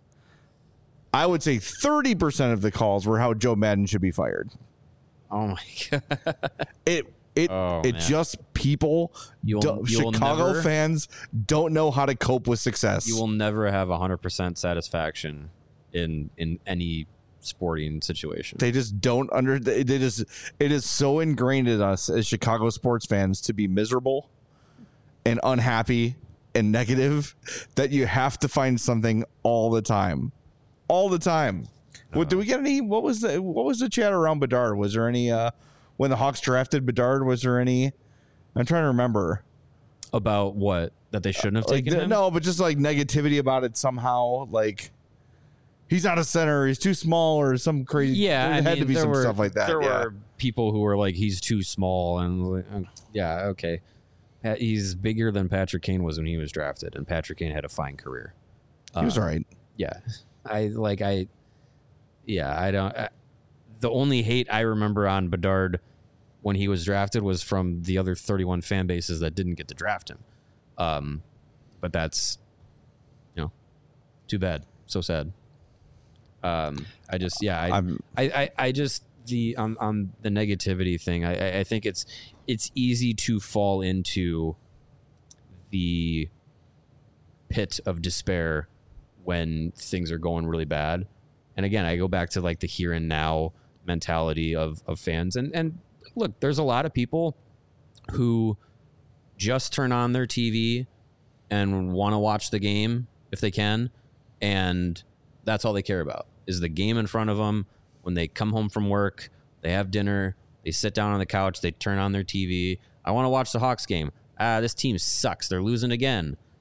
I would say thirty percent of the calls were how Joe Madden should be fired. Oh my god. It it Oh, it man. just people You'll- don't- you'll Chicago never- fans don't know how to cope with success. You will never have one hundred percent satisfaction in in any sporting situation. They just don't under. They just it is so ingrained in us as Chicago sports fans to be miserable and unhappy and negative that you have to find something all the time, all the time. What do we get any? What was the what was the chat around Bedard? Was there any uh, when the Hawks drafted Bedard? Was there any? I'm trying to remember. About what? That they shouldn't have Like, taken the- him? no, but just like negativity about it somehow. Like he's not a center. He's too small, or some crazy. Yeah, there I had mean, to be there some were, stuff like that. There yeah. were people who were like, he's too small, and like, uh, yeah, okay. Uh, He's bigger than Patrick Kane was when he was drafted, and Patrick Kane had a fine career. He was Uh, all right. Yeah, I like I. Yeah, I don't. I, the only hate I remember on Bedard when he was drafted was from the other thirty-one fan bases that didn't get to draft him. Um, but that's, you know, too bad. So sad. Um, I just, yeah, I, I'm- I, I, I just the on on the negativity thing. I, I- I think it's it's easy to fall into the pit of despair when things are going really bad. And again, I go back to like the here and now mentality of of fans. And and look, there's a lot of people who just turn on their T V and want to watch the game if they can, and that's all they care about is the game in front of them. When they come home from work, they have dinner, they sit down on the couch, they turn on their T V. I want to watch the Hawks game. Ah, this team sucks. They're losing again.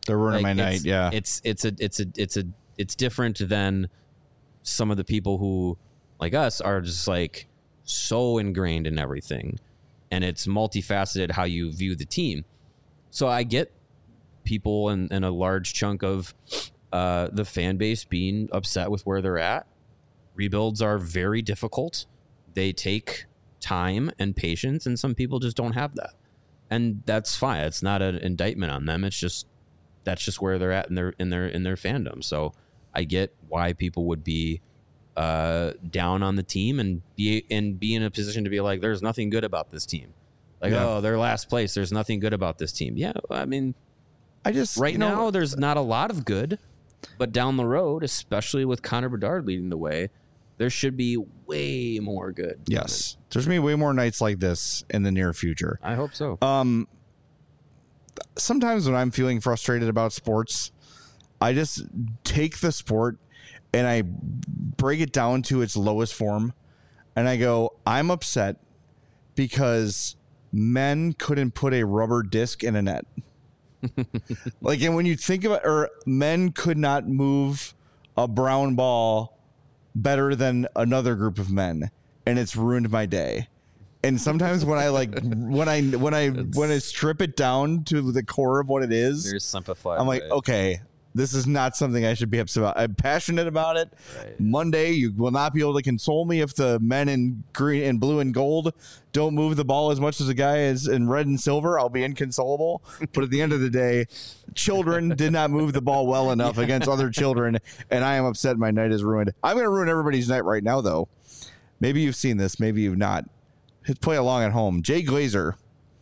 They're ruining my it's- night. Yeah. It's it's a it's a it's a it's different than some of the people who like us are just like so ingrained in everything, and it's multifaceted how you view the team. So I get people and, and a large chunk of uh, the fan base being upset with where they're at. Rebuilds are very difficult. They take time and patience, and some people just don't have that. And that's fine. It's not an indictment on them. It's just that's just where they're at in their in their in their fandom. So I get why people would be uh, down on the team and be and be in a position to be like, there's nothing good about this team. Like, Yeah. oh, they're last place. There's nothing good about this team. Yeah, I mean, I just right you know, now there's not a lot of good, but down the road, especially with Connor Bedard leading the way, there should be way more good. Yes, there's gonna be way more nights like this in the near future. I hope so. Um, sometimes when I'm feeling frustrated about sports, I just take the sport and I break it down to its lowest form, and I go, I'm upset because men couldn't put a rubber disc in a net. Like, and when you think about, or men could not move a brown ball better than another group of men, and it's ruined my day. And sometimes when I like when I when I when I strip it down to the core of what it is, There's simplified. I'm like, okay, this is not something I should be upset about. I'm passionate about it. Right. Monday, you will not be able to console me if the men in green and blue and gold don't move the ball as much as the guy is in red and silver. I'll be inconsolable. But at the end of the day, children did not move the ball well enough against other children, and I am upset. My night is ruined. I'm going to ruin everybody's night right now, though. Maybe you've seen this. Maybe you've not. Hit play along at home. Jay Glazer.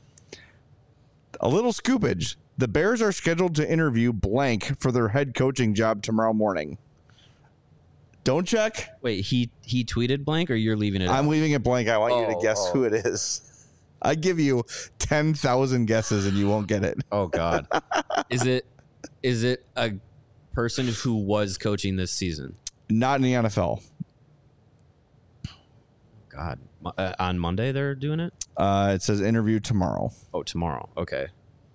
A little scoopage. The Bears are scheduled to interview blank for their head coaching job tomorrow morning. Don't check. Wait, he he tweeted blank, or you're leaving it? I'm leaving it blank. I want you to Oh, guess oh. who it is. I give you ten thousand guesses and you won't get it. Oh God, is it is it a person who was coaching this season? Not in the N F L. God, Mo- uh, on Monday they're doing it. Uh, it says interview tomorrow. Oh, tomorrow. Okay.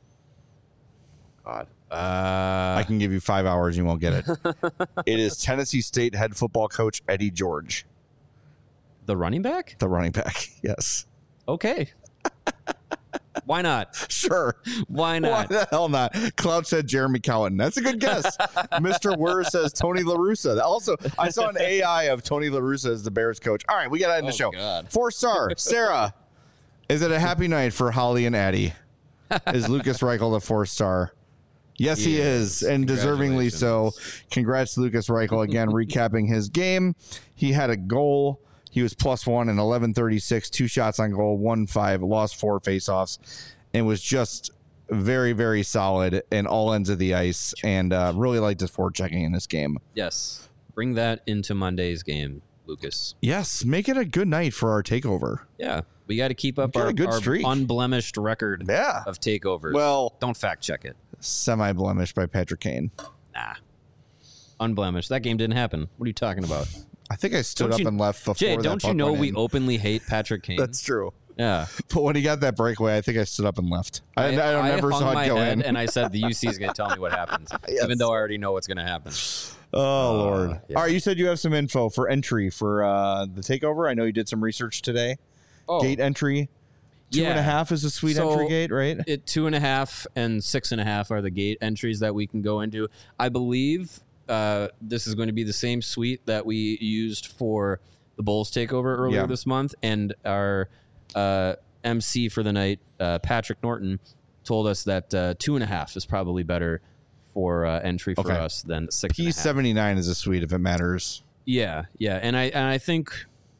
God. Uh, I can give you five hours. You won't get it. It is Tennessee State head football coach Eddie George, the running back. the running back. Yes. Okay. Why not? Sure. Why Why not? the hell not? Cloud said Jeremy Cowan. That's a good guess. Mister Wurr says Tony La Russa. Also, I saw an A I of Tony La Russa as the Bears coach. All right, we got to end the Oh, show. God. Four star. Sarah, is it a happy night for Holly and Addie? Is Lucas Reichel a four star? Yes, he, He is, is. and deservingly so. Congrats, Lucas Reichel. Again, recapping his game. He had a goal. He was plus one in eleven thirty-six, two shots on goal, one five, lost four faceoffs, and was just very, very solid in all ends of the ice, and uh, really liked his forechecking in this game. Yes. Bring that into Monday's game, Lucas. Yes, make it a good night for our takeover. Yeah. We got to keep up Got a our, good our streak. unblemished record Yeah. of takeovers. Well, don't fact check it. semi-blemished by Patrick Kane. Nah. Unblemished. That game didn't happen. What are you talking about? I think I stood Don't up you- and left before Jay, that don't you puck know went we in. openly hate Patrick Kane? That's true. Yeah. But when he got that breakaway, I think I stood up and left. I, I, I never hung saw my it go head in. and I said the U C is going to tell me what happens, Yes. even though I already know what's going to happen. Oh, Lord. yeah. All right, you said you have some info for entry for uh, the takeover. I know you did some research today. Oh, Gate entry. Two yeah. and a half is a sweet So- entry gate, right? It, two and a half and six and a half are the gate entries that we can go into. I believe uh, this is going to be the same suite that we used for the Bulls takeover earlier Yeah. this month, and our uh, M C for the night, uh, Patrick Norton, told us that uh, two and a half is probably better for uh, entry for Okay. us than six and a P half. seventy-nine is a suite if it matters. Yeah, yeah, and I and I think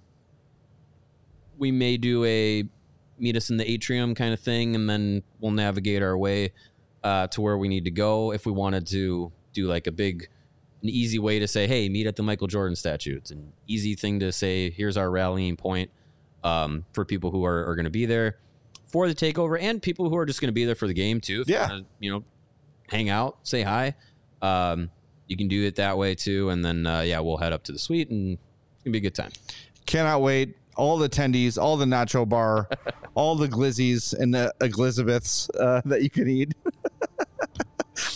we may do a meet us in the atrium kind of thing, and then we'll navigate our way uh, to where we need to go. If we wanted to do like a big, an easy way to say, hey, meet at the Michael Jordan statue. It's an easy thing to say. Here's our rallying point um, for people who are, are going to be there for the takeover, and people who are just going to be there for the game too. If Yeah. you, wanna, you know, hang out, say hi. Um, you can do it that way too, and then uh, yeah, we'll head up to the suite, and it's gonna be a good time. Cannot wait. All the attendees, all the nacho bar, all the glizzies and the uh, Glizabeths uh, that you can eat.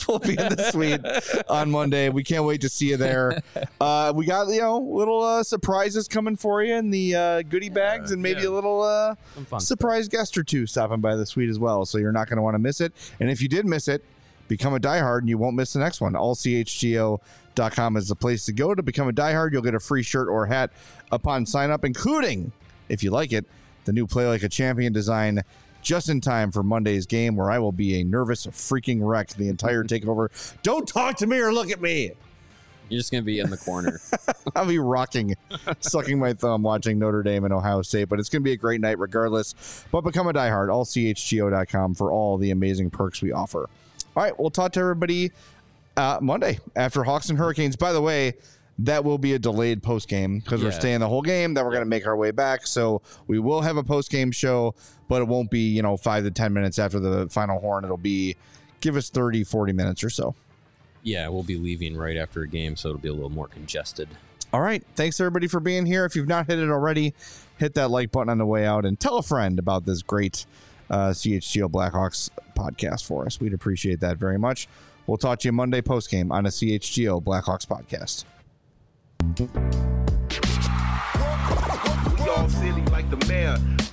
will be in the suite on Monday. We can't wait to see you there. Uh, we got, you know, little uh, surprises coming for you in the uh, goodie bags, and maybe yeah. a little uh, fun surprise guest or two stopping by the suite as well. So you're not going to want to miss it. And if you did miss it, become a diehard and you won't miss the next one. all c h g o dot com is the place to go to become a diehard. You'll get a free shirt or hat upon sign up, including, if you like it, the new Play Like a Champion design, just in time for Monday's game, where I will be a nervous freaking wreck the entire takeover. Don't talk to me or look at me. You're just going to be in the corner. I'll be rocking, sucking my thumb, watching Notre Dame and Ohio State. But it's going to be a great night regardless. But become a diehard, all c h g o dot com for all the amazing perks we offer. All right, we'll talk to everybody uh, Monday after Hawks and Hurricanes. By the way, that will be a delayed post game because Yeah. we're staying the whole game. Then we're going to make our way back. So we will have a post game show, but it won't be, you know, five to ten minutes after the final horn. It'll be, give us thirty, forty minutes or so. Yeah, we'll be leaving right after a game, so it'll be a little more congested. All right. Thanks, everybody, for being here. If you've not hit it already, hit that like button on the way out and tell a friend about this great uh, C H G O Blackhawks podcast for us. We'd appreciate that very much. We'll talk to you Monday post game on a C H G O Blackhawks podcast. We all silly like the mayor.